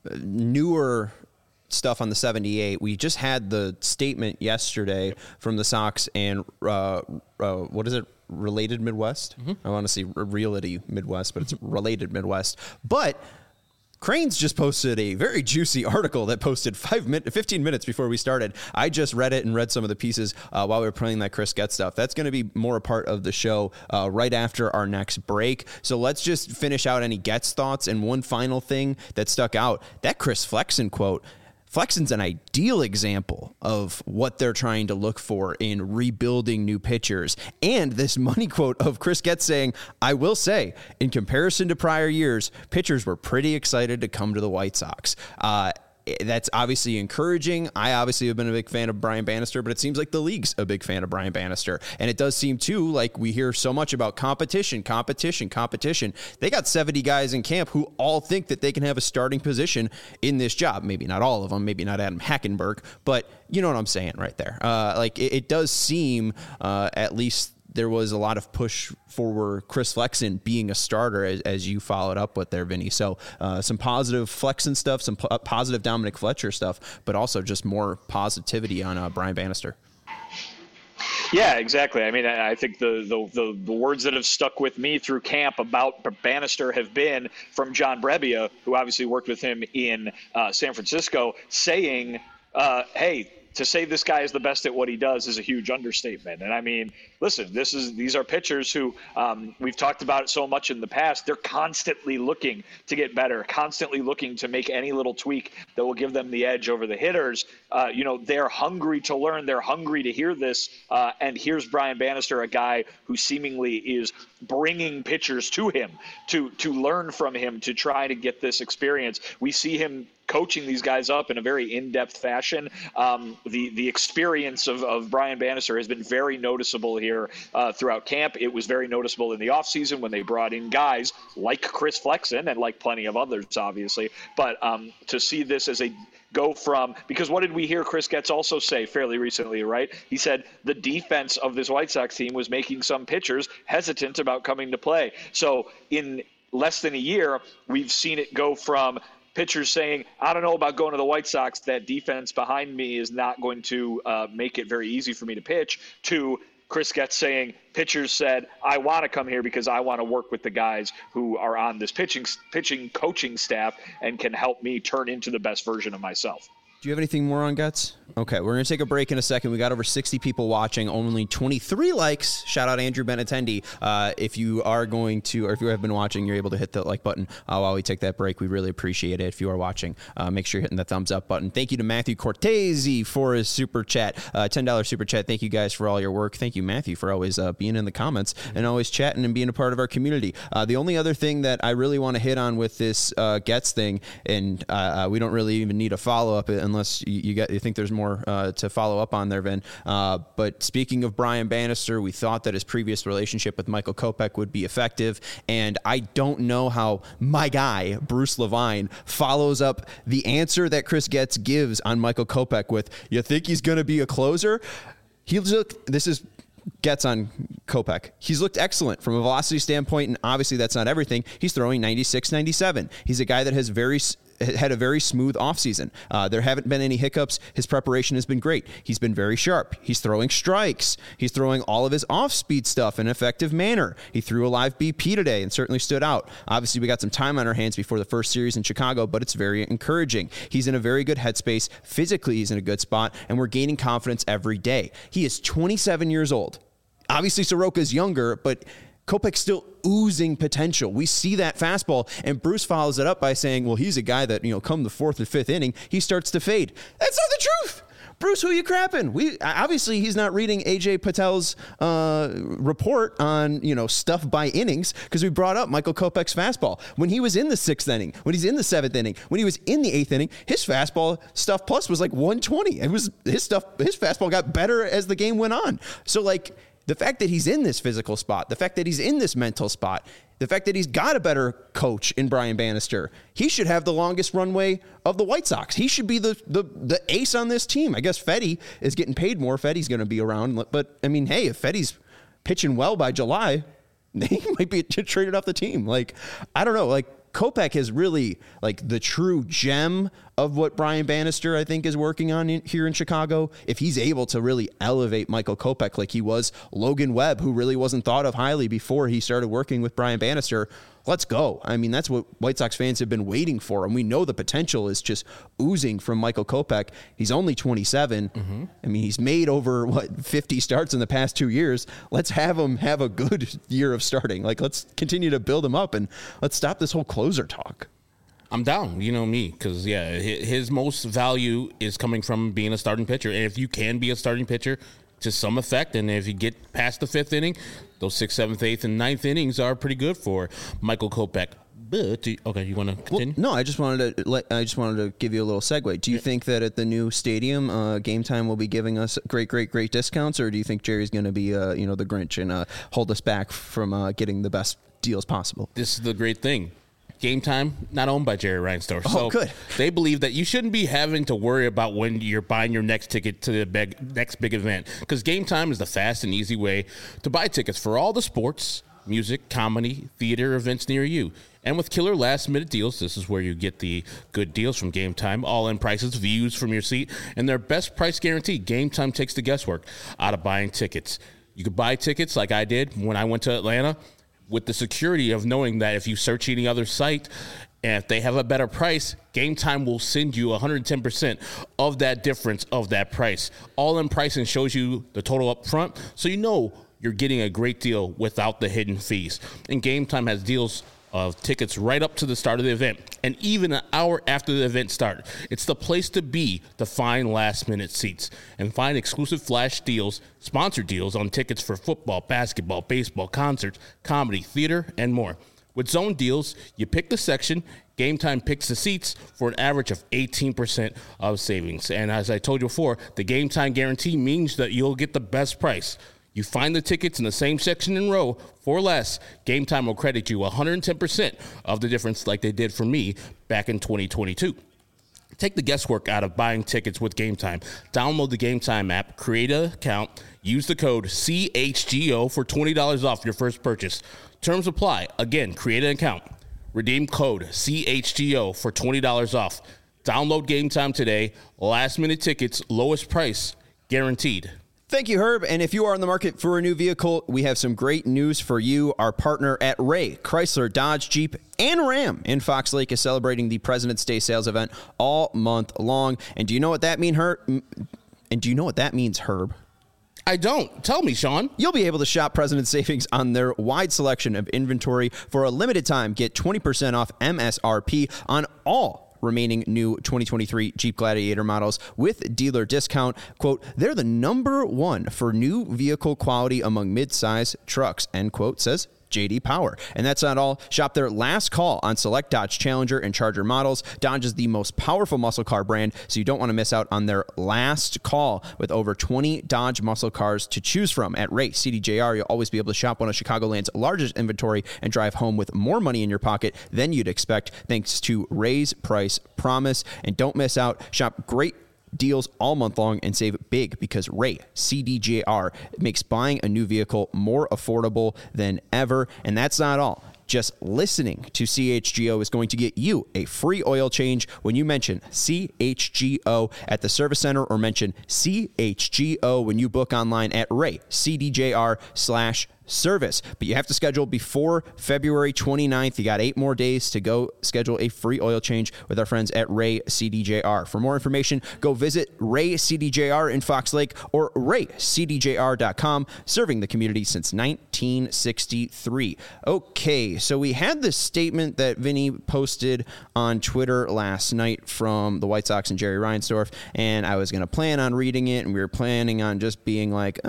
newer stuff on the 78. We just had the statement yesterday from the Sox and what is it? Related Midwest? Mm-hmm. I want to say Realty Midwest, but it's Related Midwest. But Cranes just posted a very juicy article that posted 15 minutes before we started. I just read it and read some of the pieces while we were playing that Chris Getz stuff. That's going to be more a part of the show right after our next break. So let's just finish out any Getz thoughts. And one final thing that stuck out, that Chris Flexen quote. Flexen's an ideal example of what they're trying to look for in rebuilding new pitchers. And this money quote of Chris Getz saying, I will say, in comparison to prior years, pitchers were pretty excited to come to the White Sox. That's obviously encouraging. I obviously have been a big fan of Brian Bannister, but it seems like the league's a big fan of Brian Bannister. And it does seem, too, like we hear so much about competition. They got 70 guys in camp who all think that they can have a starting position in this job. Maybe not all of them, maybe not Adam Hackenberg, but you know what I'm saying right there. It does seem, at least there was a lot of push for Chris Flexen being a starter, as you followed up with there, Vinny. So some positive Flexen stuff, some positive Dominic Fletcher stuff, but also just more positivity on Brian Bannister. Yeah, exactly. I mean, I think the words that have stuck with me through camp about Bannister have been from John Brebbia, who obviously worked with him in San Francisco, saying, hey, to say this guy is the best at what he does is a huge understatement. And I mean, listen, these are pitchers who we've talked about it so much in the past. They're constantly looking to get better, constantly looking to make any little tweak that will give them the edge over the hitters. They're hungry to learn. They're hungry to hear this. And here's Brian Bannister, a guy who seemingly is bringing pitchers to him to learn from him, to try to get this experience. We see him coaching these guys up in a very in-depth fashion. The experience of Brian Bannister has been very noticeable here throughout camp. It was very noticeable in the offseason when they brought in guys like Chris Flexen and like plenty of others, obviously. But to see this as a go from, because what did we hear Chris Getz also say fairly recently, right? He said the defense of this White Sox team was making some pitchers hesitant about coming to play. So in less than a year, we've seen it go from pitchers saying, I don't know about going to the White Sox, that defense behind me is not going to make it very easy for me to pitch, to Chris Getz saying, pitchers said, I want to come here because I want to work with the guys who are on this pitching coaching staff and can help me turn into the best version of myself. Do you have anything more on Getz? Okay, we're going to take a break in a second. We got over 60 people watching, only 23 likes. Shout out Andrew Benatendi. If you are going to, or if you have been watching, you're able to hit the like button while we take that break. We really appreciate it. If you are watching, make sure you're hitting the thumbs up button. Thank you to Matthew Cortese for his super chat, $10 super chat. Thank you guys for all your work. Thank you, Matthew, for always being in the comments and always chatting and being a part of our community. The only other thing that I really want to hit on with this Getz thing, and we don't really even need a follow-up unless you think there's more to follow up on there, Vin. But speaking of Brian Bannister, we thought that his previous relationship with Michael Kopech would be effective, and I don't know how my guy, Bruce Levine, follows up the answer that Chris Getz gives on Michael Kopech with, you think he's going to be a closer? This is Getz on Kopech. He's looked excellent from a velocity standpoint, and obviously that's not everything. He's throwing 96, 97. He's a guy that has had a very smooth offseason. There haven't been any hiccups. His preparation has been great. He's been very sharp. He's throwing strikes. He's throwing all of his off-speed stuff in an effective manner. He threw a live BP today and certainly stood out. Obviously, we got some time on our hands before the first series in Chicago, but it's very encouraging. He's in a very good headspace. Physically, he's in a good spot, and we're gaining confidence every day. He is 27 years old. Obviously, Soroka's younger, but Kopech's still oozing potential. We see that fastball, and Bruce follows it up by saying, well, he's a guy that, come the fourth or fifth inning, he starts to fade. That's not the truth. Bruce, who are you crapping? Obviously, he's not reading AJ Patel's report on, stuff by innings, because we brought up Michael Kopech's fastball. When he was in the sixth inning, when he's in the seventh inning, when he was in the eighth inning, his fastball stuff plus was like 120. It was his fastball got better as the game went on. So, the fact that he's in this physical spot, the fact that he's in this mental spot, the fact that he's got a better coach in Brian Bannister, he should have the longest runway of the White Sox. He should be the ace on this team. I guess Fedde is getting paid more. Fedde's going to be around. But, I mean, hey, if Fedde's pitching well by July, he might be traded off the team. I don't know. Kopech is really the true gem of what Brian Bannister, I think, is working on here in Chicago. If he's able to really elevate Michael Kopech like he was Logan Webb, who really wasn't thought of highly before he started working with Brian Bannister, let's go. I mean, that's what White Sox fans have been waiting for, and we know the potential is just oozing from Michael Kopech. He's only 27. Mm-hmm. I mean, he's made over 50 starts in the past 2 years. Let's have him have a good year of starting. Like, let's continue to build him up, and let's stop this whole closer talk. I'm down, you know me, because, his most value is coming from being a starting pitcher. And if you can be a starting pitcher to some effect, and if you get past the 5th inning, those 6th, 7th, 8th, and 9th innings are pretty good for Michael Kopech. But okay, you want to continue? Well, no, I just wanted to give you a little segue. Do you think that at the new stadium, Game Time will be giving us great discounts, or do you think Jerry's going to be the Grinch and hold us back from getting the best deals possible? This is the great thing. Game Time, not owned by Jerry Reinsdorf. Oh, so good. They believe that you shouldn't be having to worry about when you're buying your next ticket to the next big event, because Game Time is the fast and easy way to buy tickets for all the sports, music, comedy, theater events near you. And with killer last-minute deals, this is where you get the good deals from Game Time, all-in prices, views from your seat, and their best price guarantee. Game Time takes the guesswork out of buying tickets. You could buy tickets like I did when I went to Atlanta, with the security of knowing that if you search any other site and if they have a better price, Game Time will send you 110% of that difference of that price. All-in pricing shows you the total up front, so you know you're getting a great deal without the hidden fees. And Game Time has deals of tickets right up to the start of the event and even an hour after the event started. It's the place to be to find last-minute seats and find exclusive flash deals, sponsored deals on tickets for football, basketball, baseball, concerts, comedy, theater, and more. With zone deals, you pick the section, Game Time picks the seats for an average of 18% of savings. And as I told you before, the Game Time guarantee means that you'll get the best price. You find the tickets in the same section and row for less, Game Time will credit you 110% of the difference like they did for me back in 2022. Take the guesswork out of buying tickets with Game Time. Download the Game Time app, create an account, use the code CHGO for $20 off your first purchase. Terms apply. Again, create an account. Redeem code CHGO for $20 off. Download Game Time today. Last minute tickets, lowest price, guaranteed. Thank you, Herb. And if you are in the market for a new vehicle, we have some great news for you. Our partner at Ray, Chrysler, Dodge, Jeep, and Ram in Fox Lake is celebrating the President's Day sales event all month long. And do you know what that means, Herb? I don't. Tell me, Sean. You'll be able to shop President's Savings on their wide selection of inventory. For a limited time, get 20% off MSRP on all remaining new 2023 Jeep Gladiator models with dealer discount. Quote, they're the number one for new vehicle quality among mid-size trucks, end quote, says J.D. Power. And that's not all. Shop their last call on select Dodge Challenger and Charger models. Dodge is the most powerful muscle car brand, so you don't want to miss out on their last call with over 20 Dodge muscle cars to choose from. At Ray CDJR, you'll always be able to shop one of Chicagoland's largest inventory and drive home with more money in your pocket than you'd expect, thanks to Ray's Price Promise. And don't miss out. Shop great deals all month long and save big, because Ray CDJR makes buying a new vehicle more affordable than ever. And that's not all. Just listening to CHGO is going to get you a free oil change when you mention CHGO at the service center, or mention CHGO when you book online at RayCDJR/service. But you have to schedule before February 29th. You got 8 more days to go schedule a free oil change with our friends at Ray CDJR. For more information, go visit Ray CDJR in Fox Lake or RayCDJR.com, serving the community since 1963. Okay, so we had this statement that Vinny posted on Twitter last night from the White Sox and Jerry Reinsdorf, and I was going to plan on reading it, and we were planning on just being like,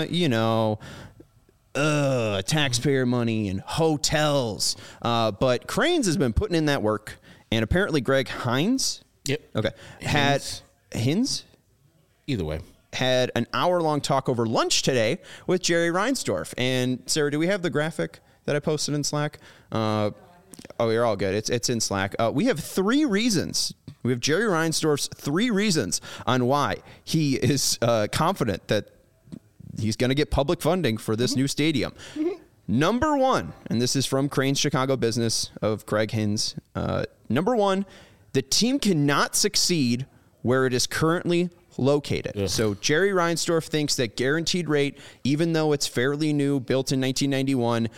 taxpayer money and hotels. But Cranes has been putting in that work, and apparently Greg Hines. Yep. Okay. Hines? Either way. Had an hour-long talk over lunch today with Jerry Reinsdorf. And Sarah, do we have the graphic that I posted in Slack? Oh, you're all good. It's in Slack. We have 3 reasons. We have Jerry Reinsdorf's 3 reasons on why he is confident that he's going to get public funding for this new stadium. Number 1, and this is from Crane's Chicago Business of Craig Hines. Number 1, the team cannot succeed where it is currently located. Ugh. So Jerry Reinsdorf thinks that guaranteed rate, even though it's fairly new, built in 1991,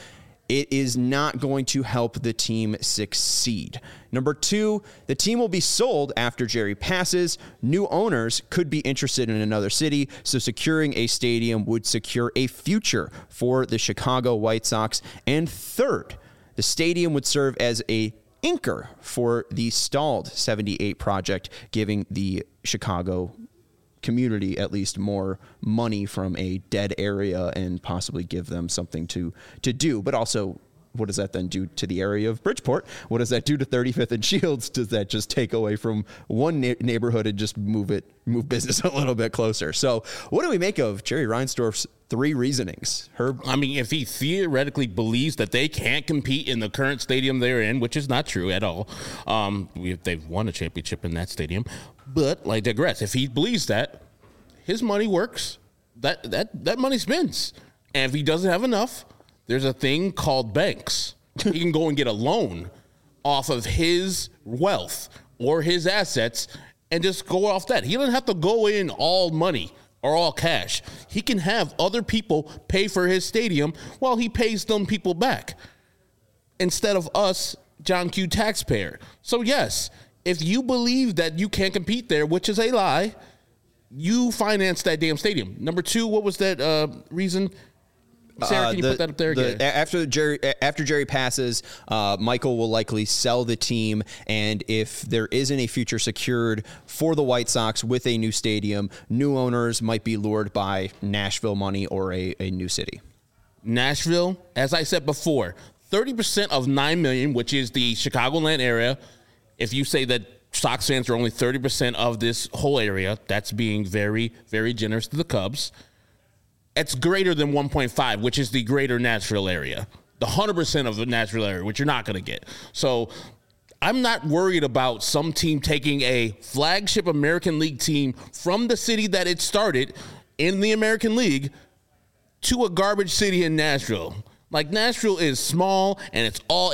it is not going to help the team succeed. Number 2, the team will be sold after Jerry passes. New owners could be interested in another city, so securing a stadium would secure a future for the Chicago White Sox. And third, the stadium would serve as a anchor for the stalled 78 project, giving the Chicago community at least more money from a dead area and possibly give them something to do. But also, what does that then do to the area of Bridgeport? What does that do to 35th and Shields? Does that just take away from one neighborhood and just move business a little bit closer? So what do we make of Jerry Reinsdorf's 3 reasonings? Herb? I mean, if he theoretically believes that they can't compete in the current stadium they're in, which is not true at all. They've won a championship in that stadium. But I digress. If he believes that, his money works. That money spends. And if he doesn't have enough, there's a thing called banks. He can go and get a loan off of his wealth or his assets and just go off that. He doesn't have to go in all money or all cash. He can have other people pay for his stadium while he pays them people back instead of us, John Q. taxpayer. So yes, if you believe that you can't compete there, which is a lie, you finance that damn stadium. Number 2, what was that reason? Sarah, can you put that up there again? After Jerry passes, Michael will likely sell the team, and if there isn't a future secured for the White Sox with a new stadium, new owners might be lured by Nashville money or a new city. Nashville, as I said before, 30% of $9 million, which is the Chicagoland area. If you say that Sox fans are only 30% of this whole area, that's being very, very generous to the Cubs. It's greater than 1.5, which is the greater Nashville area, the 100% of the Nashville area, which you're not going to get. So I'm not worried about some team taking a flagship American League team from the city that it started in the American League to a garbage city in Nashville. Like, Nashville is small, and it's all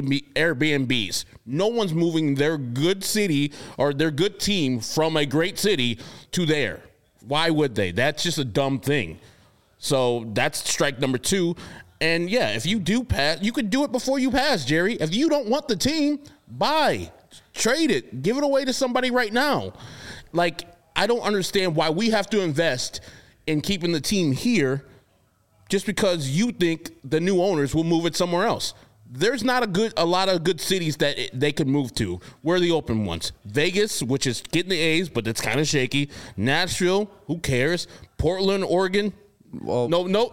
Airbnbs. No one's moving their good city or their good team from a great city to there. Why would they? That's just a dumb thing. So that's strike number 2. And, yeah, if you do pass, you could do it before you pass, Jerry. If you don't want the team, buy, trade it, give it away to somebody right now. Like, I don't understand why we have to invest in keeping the team here just because you think the new owners will move it somewhere else. There's not a lot of good cities that they could move to. Where are the open ones? Vegas, which is getting the A's, but it's kind of shaky. Nashville, who cares? Portland, Oregon. Well,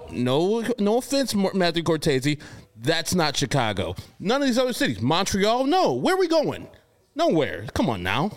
no offense, Matthew Cortese. That's not Chicago. None of these other cities. Montreal, no. Where are we going? Nowhere. Come on now.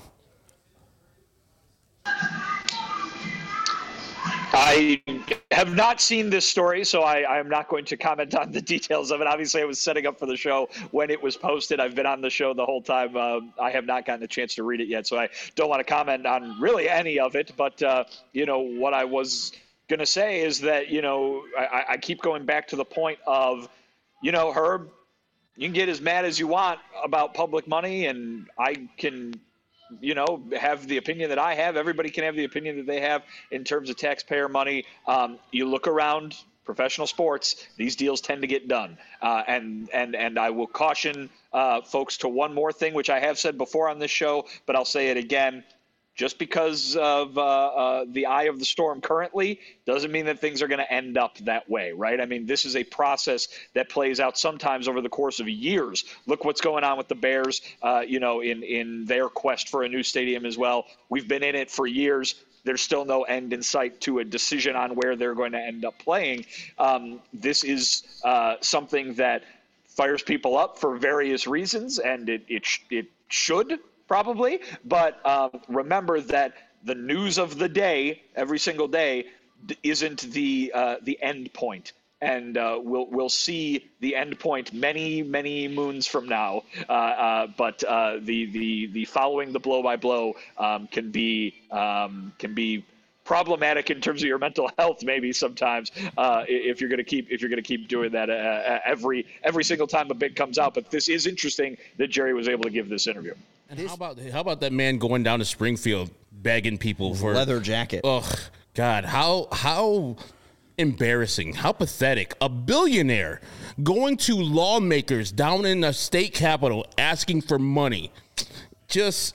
I have not seen this story, so I am not going to comment on the details of it. Obviously, I was setting up for the show when it was posted. I've been on the show the whole time. I have not gotten a chance to read it yet, so I don't want to comment on really any of it. But, what I was going to say is that, I keep going back to the point of, Herb, you can get as mad as you want about public money, and I can have the opinion that I have. Everybody can have the opinion that they have in terms of taxpayer money. You look around professional sports, these deals tend to get done. And I will caution folks to one more thing, which I have said before on this show, but I'll say it again. Just because of the eye of the storm currently doesn't mean that things are going to end up that way, right? I mean, this is a process that plays out sometimes over the course of years. Look what's going on with the Bears, in their quest for a new stadium as well. We've been in it for years. There's still no end in sight to a decision on where they're going to end up playing. This is something that fires people up for various reasons, and it should probably, but remember that the news of the day, every single day, isn't the end point, and we'll see the end point many moons from now. But the following the blow by blow can be problematic in terms of your mental health, maybe sometimes if you're going to keep doing that every single time a bid comes out. But this is interesting that Jerry was able to give this interview. How about that man going down to Springfield begging people for leather jacket? Oh God, how embarrassing. How pathetic. A billionaire going to lawmakers down in the state capitol asking for money. Just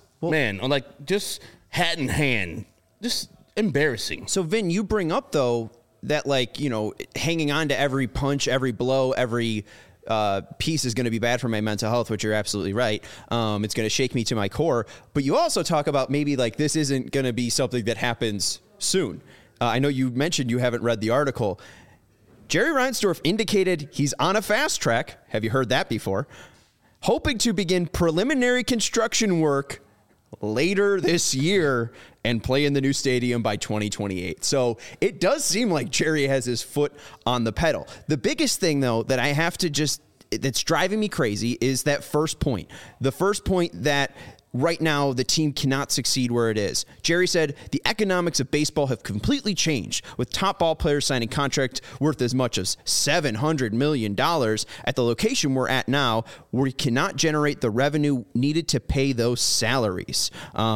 hat in hand. Just embarrassing. So, Vin, you bring up, though, that, hanging on to every punch, every blow, every piece is going to be bad for my mental health, which you're absolutely right. It's going to shake me to my core. But you also talk about maybe, this isn't going to be something that happens soon. I know you mentioned you haven't read the article. Jerry Reinsdorf indicated he's on a fast track. Have you heard that before? Hoping to begin preliminary construction work later this year and play in the new stadium by 2028. So it does seem like Jerry has his foot on the pedal. The biggest thing, though, that I have to that's driving me crazy is that first point. The first point that right now the team cannot succeed where it is. Jerry said the economics of baseball have completely changed, with top ball players signing contracts worth as much as $700 million at the location we're at now, where we cannot generate the revenue needed to pay those salaries.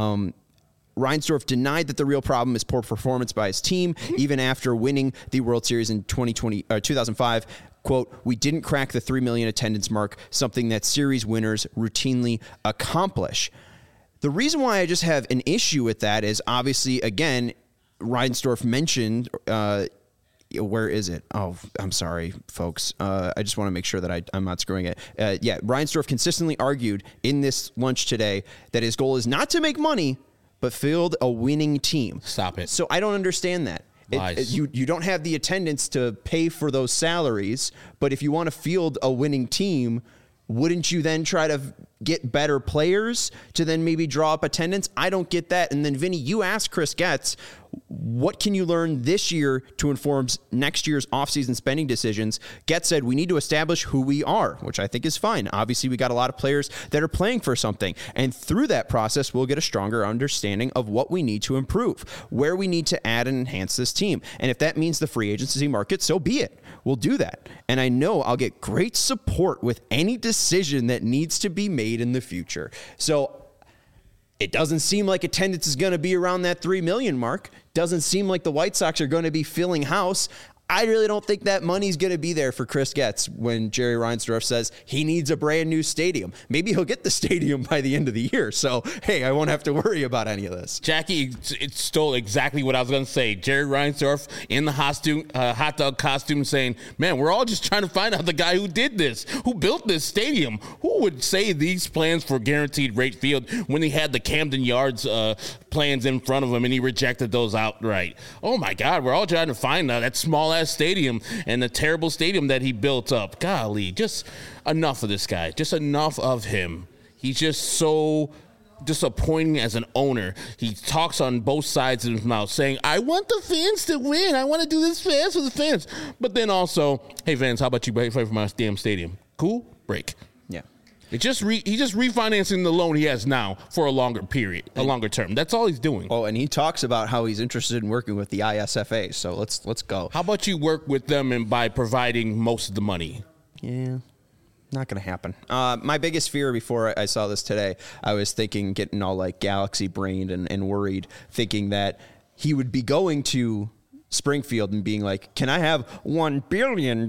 Reinsdorf denied that the real problem is poor performance by his team, even after winning the World Series in 2005. Quote, we didn't crack the 3 million attendance mark, something that series winners routinely accomplish. The reason why I just have an issue with that is obviously, again, Reinsdorf mentioned, where is it? Oh, I'm sorry, folks. I just want to make sure that I'm not screwing it. Reinsdorf consistently argued in this lunch today that his goal is not to make money, but field a winning team. Stop it. So I don't understand that. You don't have the attendance to pay for those salaries, but if you want to field a winning team, wouldn't you then try to get better players to then maybe draw up attendance? I don't get that. And then, Vinny, you asked Chris Getz, what can you learn this year to inform next year's offseason spending decisions? Getz said, we need to establish who we are, which I think is fine. Obviously, we got a lot of players that are playing for something. And through that process, we'll get a stronger understanding of what we need to improve, where we need to add and enhance this team. And if that means the free agency market, so be it. We'll do that. And I know I'll get great support with any decision that needs to be made in the future. So it doesn't seem like attendance is going to be around that 3 million mark. Doesn't seem like the White Sox are going to be filling house. I really don't think that money's going to be there for Chris Getz when Jerry Reinsdorf says he needs a brand new stadium. Maybe he'll get the stadium by the end of the year. So, hey, I won't have to worry about any of this. Jackie, it stole exactly what I was going to say. Jerry Reinsdorf in the hot dog costume saying, man, we're all just trying to find out the guy who did this, who built this stadium. Who would say these plans for guaranteed rate field when he had the Camden Yards plans in front of him and he rejected those outright? Oh, my God, we're all trying to find that small-ass stadium and the terrible stadium that he built up. Golly, just enough of this guy. Just enough of him. He's just so disappointing as an owner. He talks on both sides of his mouth saying, I want the fans to win. I want to do this fans for the fans. But then also, hey, fans, how about you play for my damn stadium? Cool? Break. Yeah. He's just refinancing the loan he has now for a longer period, a longer term. That's all he's doing. Oh, and he talks about how he's interested in working with the ISFA. So let's go. How about you work with them and by providing most of the money? Yeah, not going to happen. My biggest fear before I saw this today, I was thinking, getting all galaxy brained and worried, thinking that he would be going to Springfield and being like, can I have $1 billion?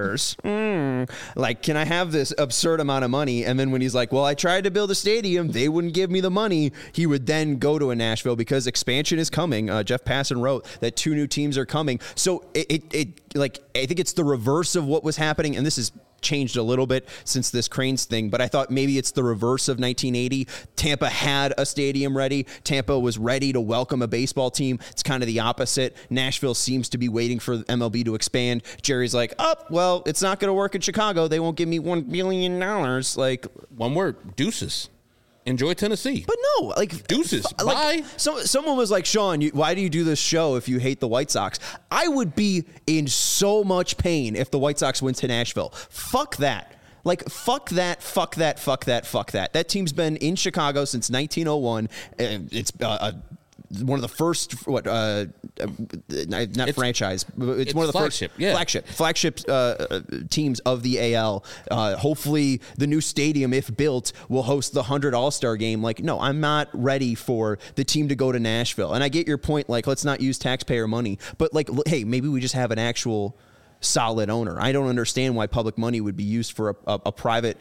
Can I have this absurd amount of money? And then when he's like, well, I tried to build a stadium, they wouldn't give me the money. He would then go to a Nashville because expansion is coming. Jeff Passan wrote that 2 new teams are coming. So I think it's the reverse of what was happening. And this is changed a little bit since this Cranes thing, but I thought maybe it's the reverse of 1980. Tampa had a stadium ready. Tampa was ready to welcome a baseball team. It's kind of the opposite. Nashville seems to be waiting for MLB to expand. Jerry's like, well, it's not going to work in Chicago. They won't give me $1 billion. One word, deuces. Enjoy Tennessee. But no, deuces. Bye. Someone was like, Sean, why do you do this show if you hate the White Sox? I would be in so much pain if the White Sox went to Nashville. Fuck that. Fuck that. That team's been in Chicago since 1901. It's one of the first not franchise, but it's one of the flagship teams of the AL. Hopefully the new stadium, if built, will host the 100 All-Star game. Like, no, I'm not ready for the team to go to Nashville. And I get your point, like, let's not use taxpayer money, but like, hey, maybe we just have an actual solid owner. I don't understand why public money would be used for a private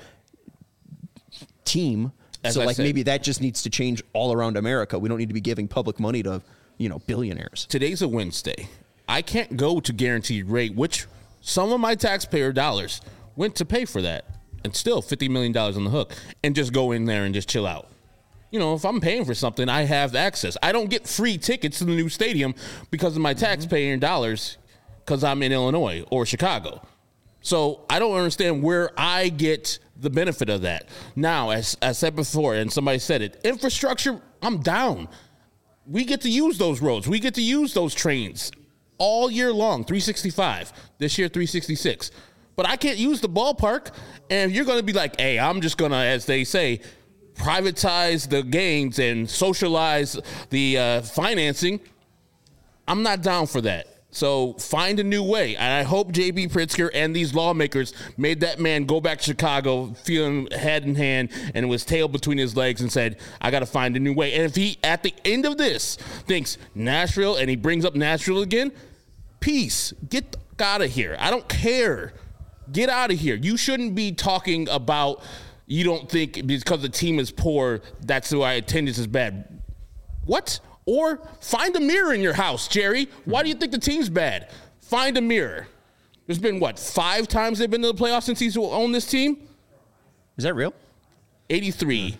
team. As so I like said, maybe that just needs to change all around America. We don't need to be giving public money to, billionaires. Today's a Wednesday. I can't go to Guaranteed Rate, which some of my taxpayer dollars went to pay for that, and still $50 million on the hook, and just go in there and just chill out. If I'm paying for something, I have access. I don't get free tickets to the new stadium because of my taxpayer dollars because I'm in Illinois or Chicago. So I don't understand where I get the benefit of that. Now, as I said before, and somebody said it, infrastructure, I'm down. We get to use those roads. We get to use those trains all year long, 365. This year, 366. But I can't use the ballpark, and you're going to be like, hey, I'm just going to, as they say, privatize the gains and socialize the financing. I'm not down for that. So find a new way. And I hope J.B. Pritzker and these lawmakers made that man go back to Chicago feeling head in hand and with his tail between his legs and said, I got to find a new way. And if he, at the end of this, thinks Nashville and he brings up Nashville again, peace. Get out of here. I don't care. Get out of here. You shouldn't be talking about you don't think because the team is poor, that's why attendance is bad. What? Or find a mirror in your house, Jerry. Why do you think the team's bad? Find a mirror. There's been, 5 times they've been to the playoffs since he's owned this team? Is that real? 83,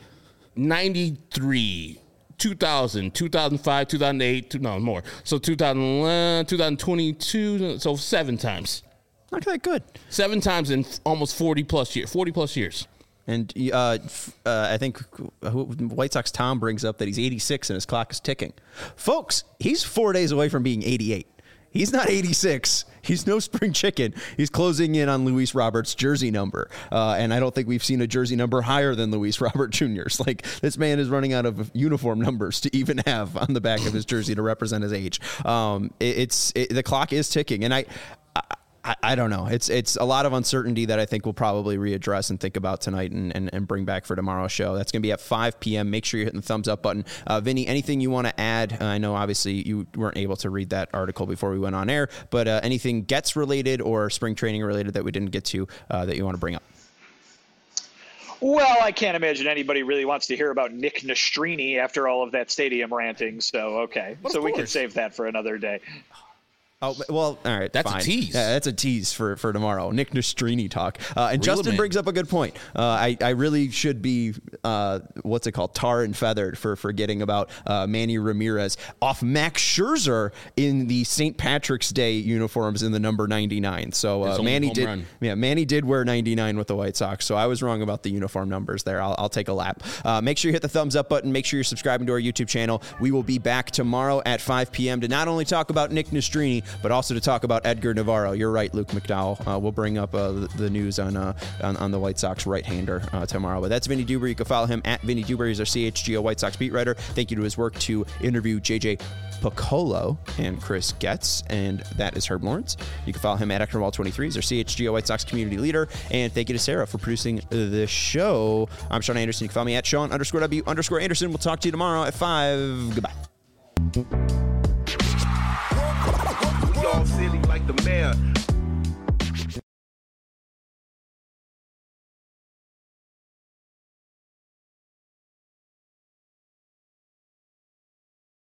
93, 2000, 2005, 2008, no, more. So 2011, 2022, so 7 times. Not that good. 7 times in almost 40 plus years. And I think White Sox Tom brings up that he's 86 and his clock is ticking. Folks, he's 4 days away from being 88. He's not 86. He's no spring chicken. He's closing in on Luis Roberts' jersey number. And I don't think we've seen a jersey number higher than Luis Robert Jr.'s. Like, this man is running out of uniform numbers to even have on the back of his jersey to represent his age. The clock is ticking. And I don't know. It's a lot of uncertainty that I think we'll probably readdress and think about tonight and bring back for tomorrow's show. That's going to be at 5 p.m. Make sure you're hitting the thumbs up button. Vinny, anything you want to add? I know obviously you weren't able to read that article before we went on air, but anything Gets related or spring training related that we didn't get to that you want to bring up? Well, I can't imagine anybody really wants to hear about Nick Nastrini after all of that stadium ranting. So, okay. So we can save that for another day. Oh, well, all right. That's fine. a tease. Yeah, that's a tease for tomorrow. Nick Nastrini talk. And Justin brings up a good point. I really should be, tar and feathered for forgetting about Manny Ramirez off Max Scherzer in the St. Patrick's Day uniforms in the number 99. So Manny did wear 99 with the White Sox. So I was wrong about the uniform numbers there. I'll take a lap. Make sure you hit the thumbs up button. Make sure you're subscribing to our YouTube channel. We will be back tomorrow at 5 p.m. to not only talk about Nick Nastrini, but also to talk about Edgar Navarro. You're right, Luke McDowell. We'll bring up the news on the White Sox right-hander tomorrow. But that's Vinny Dewberry. You can follow him at Vinny Dewberry. He's our CHGO White Sox beat writer. Thank you to his work to interview JJ Piccolo and Chris Getz, and that is Herb Lawrence. You can follow him at Eknerwall23. He's our CHGO White Sox community leader. And thank you to Sarah for producing the show. I'm Sean Anderson. You can follow me at Sean_W_Anderson. We'll talk to you tomorrow at 5. Goodbye. All silly like the mayor.